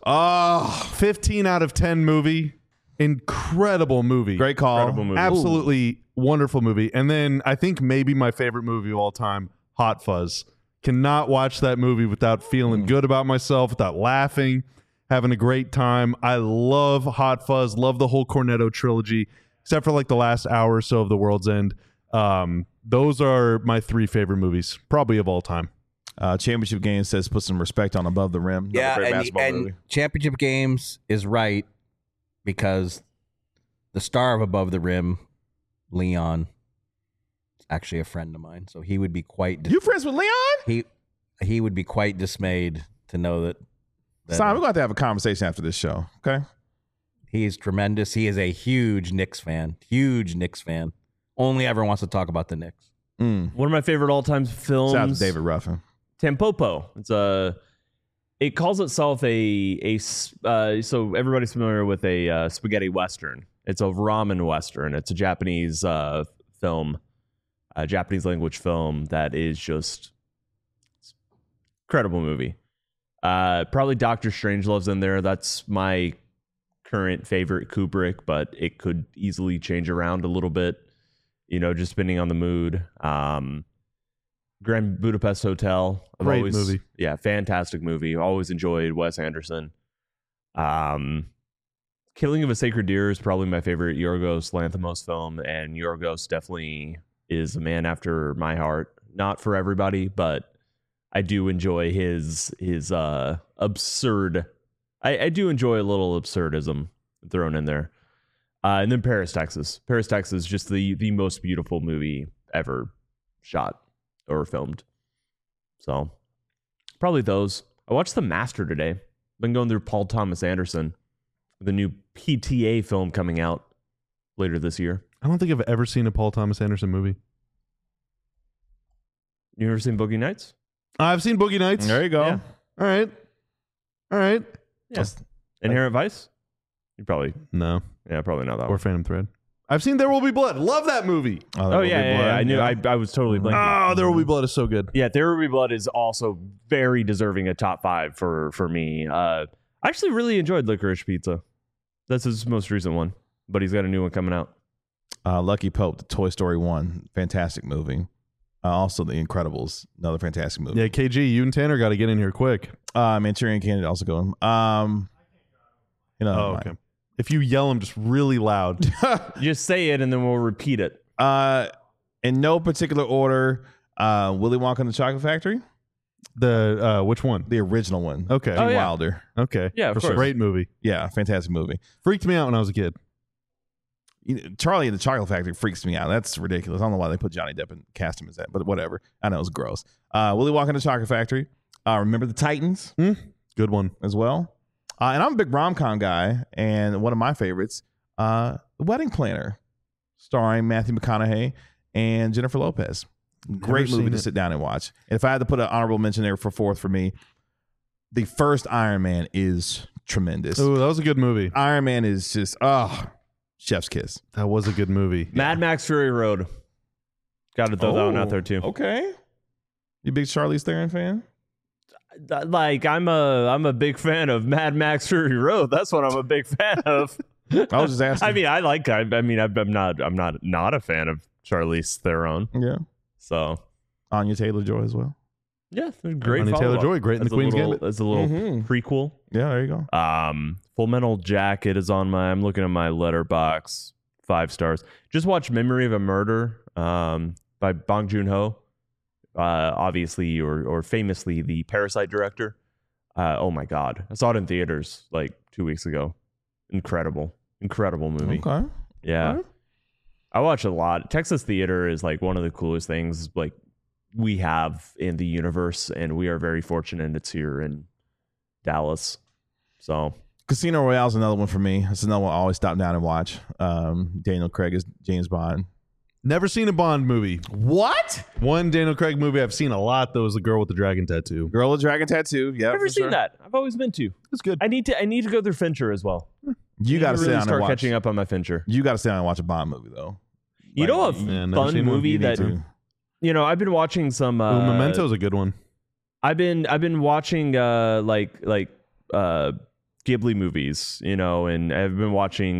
[SPEAKER 4] 15 out of 10 movie, incredible movie.
[SPEAKER 1] great call.
[SPEAKER 2] Incredible movie.
[SPEAKER 4] Absolutely wonderful movie. And then I think maybe my favorite movie of all time, Hot Fuzz. Cannot watch that movie without feeling good about myself, without laughing, having a great time. I love Hot Fuzz, love the whole Cornetto trilogy, except for like the last hour or so of The World's End. Those are my 3 favorite movies, probably of all time.
[SPEAKER 1] Championship Game says put some respect on Above the Rim. Another
[SPEAKER 3] yeah,
[SPEAKER 1] great basketball
[SPEAKER 3] and
[SPEAKER 1] movie.
[SPEAKER 3] Championship Games is right because the star of Above the Rim, Leon, is actually a friend of mine. So he would be quite
[SPEAKER 1] You friends with Leon?
[SPEAKER 3] he would be quite dismayed to know that
[SPEAKER 1] Simon, we're going to have a conversation after this show. Okay.
[SPEAKER 3] he is tremendous. He is a huge Knicks fan. Only ever wants to talk about the Knicks.
[SPEAKER 2] One of my favorite all-time films.
[SPEAKER 1] Shout out to David Ruffin.
[SPEAKER 2] Tampopo. It calls itself so everybody's familiar with a spaghetti western. It's a ramen western. It's a Japanese film, a Japanese language film that is just incredible movie. Probably Doctor Strangelove's in there. That's my current favorite Kubrick, but it could easily change around a little bit, just depending on the mood. Grand Budapest Hotel.
[SPEAKER 4] Great movie.
[SPEAKER 2] Yeah, fantastic movie. Always enjoyed Wes Anderson. Killing of a Sacred Deer is probably my favorite Yorgos Lanthimos film, and Yorgos definitely is a man after my heart. Not for everybody, but I do enjoy his absurd I do enjoy a little absurdism thrown in there. And then Paris, Texas. Paris, Texas, just the most beautiful movie ever shot or filmed. So probably those. I watched The Master today. Been going through Paul Thomas Anderson, the new PTA film coming out later this year.
[SPEAKER 4] I don't think I've ever seen a Paul Thomas Anderson movie.
[SPEAKER 2] You ever seen Boogie Nights?
[SPEAKER 4] I've seen Boogie Nights.
[SPEAKER 1] There you go.
[SPEAKER 2] Yeah.
[SPEAKER 4] All right.
[SPEAKER 2] Yeah. Inherent Vice? You probably,
[SPEAKER 4] No.
[SPEAKER 2] yeah, probably not that
[SPEAKER 4] Or
[SPEAKER 2] one.
[SPEAKER 4] Phantom Thread. I've seen There Will Be Blood. Love that movie.
[SPEAKER 2] Oh, yeah. I knew. I was totally blanking.
[SPEAKER 4] Oh, There Will Be Blood is so good.
[SPEAKER 2] Yeah, There Will Be Blood is also very deserving of top 5 for me. I actually really enjoyed Licorice Pizza. That's his most recent one, but he's got a new one coming out.
[SPEAKER 1] Lucky Pope, the Toy Story 1, fantastic movie. Also, The Incredibles, another fantastic movie.
[SPEAKER 4] Yeah, KG, you and Tanner got to get in here quick.
[SPEAKER 1] Manchurian Candidate also going.
[SPEAKER 4] Okay. If you yell them just really loud.
[SPEAKER 2] Just say it and then we'll repeat it.
[SPEAKER 1] In no particular order, Willy Wonka and the Chocolate Factory,
[SPEAKER 4] The which one?
[SPEAKER 1] the original one.
[SPEAKER 4] Okay.
[SPEAKER 2] Oh, yeah.
[SPEAKER 1] Wilder.
[SPEAKER 4] Okay.
[SPEAKER 2] Yeah, of
[SPEAKER 4] For
[SPEAKER 2] course.
[SPEAKER 4] Great movie.
[SPEAKER 1] Yeah, fantastic movie.
[SPEAKER 4] Freaked me out when I was a kid.
[SPEAKER 1] Charlie and the Chocolate Factory freaks me out. That's ridiculous. I don't know why they put Johnny Depp and cast him as that, but whatever. I know it's gross. Willy Wonka and the Chocolate Factory. Remember the Titans
[SPEAKER 4] Good one.
[SPEAKER 1] as well. And I'm a big rom-com guy, and one of my favorites, The Wedding Planner, starring Matthew McConaughey and Jennifer Lopez. Great movie to sit down and watch. And if I had to put an honorable mention there for fourth for me, the first Iron Man is tremendous.
[SPEAKER 4] Oh, that was a good movie.
[SPEAKER 1] Iron Man is just, chef's kiss.
[SPEAKER 4] That was a good movie.
[SPEAKER 2] Mad Max Fury Road. Got to throw that one out there too.
[SPEAKER 1] Okay. You big Charlize Theron fan?
[SPEAKER 2] Like I'm a big fan of Mad Max Fury Road. That's what I'm a big fan of.
[SPEAKER 1] I was just asking.
[SPEAKER 2] I'm not a fan of Charlize Theron.
[SPEAKER 1] Yeah.
[SPEAKER 2] So
[SPEAKER 1] Anya Taylor-Joy as well.
[SPEAKER 2] yeah, great.
[SPEAKER 4] Anya
[SPEAKER 2] follow-up.
[SPEAKER 4] Taylor-Joy, great in
[SPEAKER 2] That's
[SPEAKER 4] The Queen's
[SPEAKER 2] a little,
[SPEAKER 4] Gambit.
[SPEAKER 2] That's a little prequel.
[SPEAKER 1] Yeah, there you go.
[SPEAKER 2] Full Metal Jacket is on I'm looking at my Letterboxd, 5 stars. Just watch Memory of a Murder by Bong Joon-ho. Obviously or famously the Parasite director. Oh my God. I saw it in theaters like 2 weeks ago. Incredible movie.
[SPEAKER 1] Okay.
[SPEAKER 2] Yeah.
[SPEAKER 1] All right.
[SPEAKER 2] I watch a lot. Texas theater is like one of the coolest things like we have in the universe, and we are very fortunate it's here in Dallas. So
[SPEAKER 1] Casino Royale is another one for me. It's another one I always stop down and watch. Daniel Craig is James Bond.
[SPEAKER 4] Never seen a Bond movie.
[SPEAKER 1] What?
[SPEAKER 4] One Daniel Craig movie I've seen a lot, though, is The Girl with the Dragon Tattoo.
[SPEAKER 1] Girl with Dragon Tattoo. Yeah,
[SPEAKER 2] I've never seen that. I've always been to.
[SPEAKER 4] It's good.
[SPEAKER 2] I need to go through Fincher as well.
[SPEAKER 1] You got to sit
[SPEAKER 2] really
[SPEAKER 1] down and
[SPEAKER 2] start
[SPEAKER 1] watch.
[SPEAKER 2] catching up on my Fincher.
[SPEAKER 1] You got to sit down and watch a Bond movie though.
[SPEAKER 2] You know, a
[SPEAKER 4] Yeah, never
[SPEAKER 2] fun
[SPEAKER 4] seen one.
[SPEAKER 2] movie
[SPEAKER 1] You need
[SPEAKER 2] that
[SPEAKER 1] to.
[SPEAKER 2] I've been watching some.
[SPEAKER 4] Ooh, Memento's a good one.
[SPEAKER 2] I've been watching like Ghibli movies, and I've been watching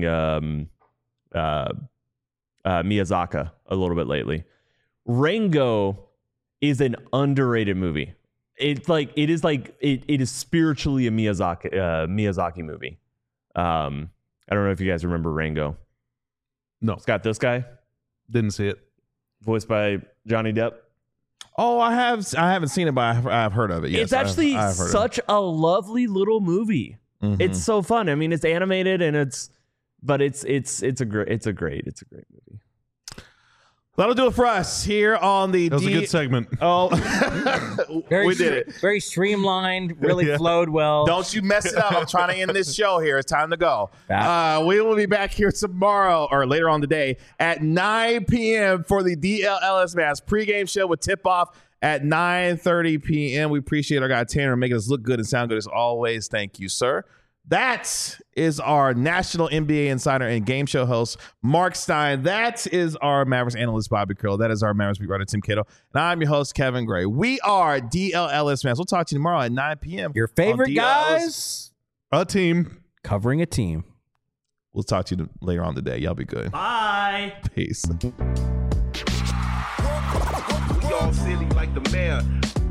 [SPEAKER 2] Miyazaki a little bit lately. Rango is an underrated movie. It is spiritually a Miyazaki movie. I don't know if you guys remember Rango.
[SPEAKER 4] No,
[SPEAKER 2] It's got this guy,
[SPEAKER 4] didn't see it.
[SPEAKER 2] voiced by Johnny Depp.
[SPEAKER 1] Oh, I haven't seen it, but I've heard of it. Yes,
[SPEAKER 2] It's actually
[SPEAKER 1] I've heard
[SPEAKER 2] such a lovely little movie.
[SPEAKER 1] of it.
[SPEAKER 2] It's so fun. I mean, it's animated and it's a great movie.
[SPEAKER 1] That'll do it for us here on the.
[SPEAKER 4] That was a good segment.
[SPEAKER 1] Oh, we did it.
[SPEAKER 3] Very streamlined, really
[SPEAKER 4] Yeah.
[SPEAKER 3] flowed well.
[SPEAKER 1] Don't you mess it up. I'm trying to end this show here. It's time to go.
[SPEAKER 3] Back.
[SPEAKER 1] We will be back here tomorrow or later on today at 9 p.m. for the DLLS Mass pregame show with tip-off at 9:30 p.m. We appreciate our guy Tanner making us look good and sound good as always. Thank you, sir. That is our national NBA insider and game show host, Mark Stein. That is our Mavericks analyst, Bobby Curl. That is our Mavericks beat writer, Tim Cato. And I'm your host, Kevin Gray. We are DLLS Mass. We'll talk to you tomorrow at 9 p.m.
[SPEAKER 3] Your favorite
[SPEAKER 1] on DLLS.
[SPEAKER 3] guys
[SPEAKER 4] A team.
[SPEAKER 3] covering a team.
[SPEAKER 1] We'll talk to you later on today. Y'all be good.
[SPEAKER 2] Bye.
[SPEAKER 1] Peace.
[SPEAKER 7] We all silly like the mayor.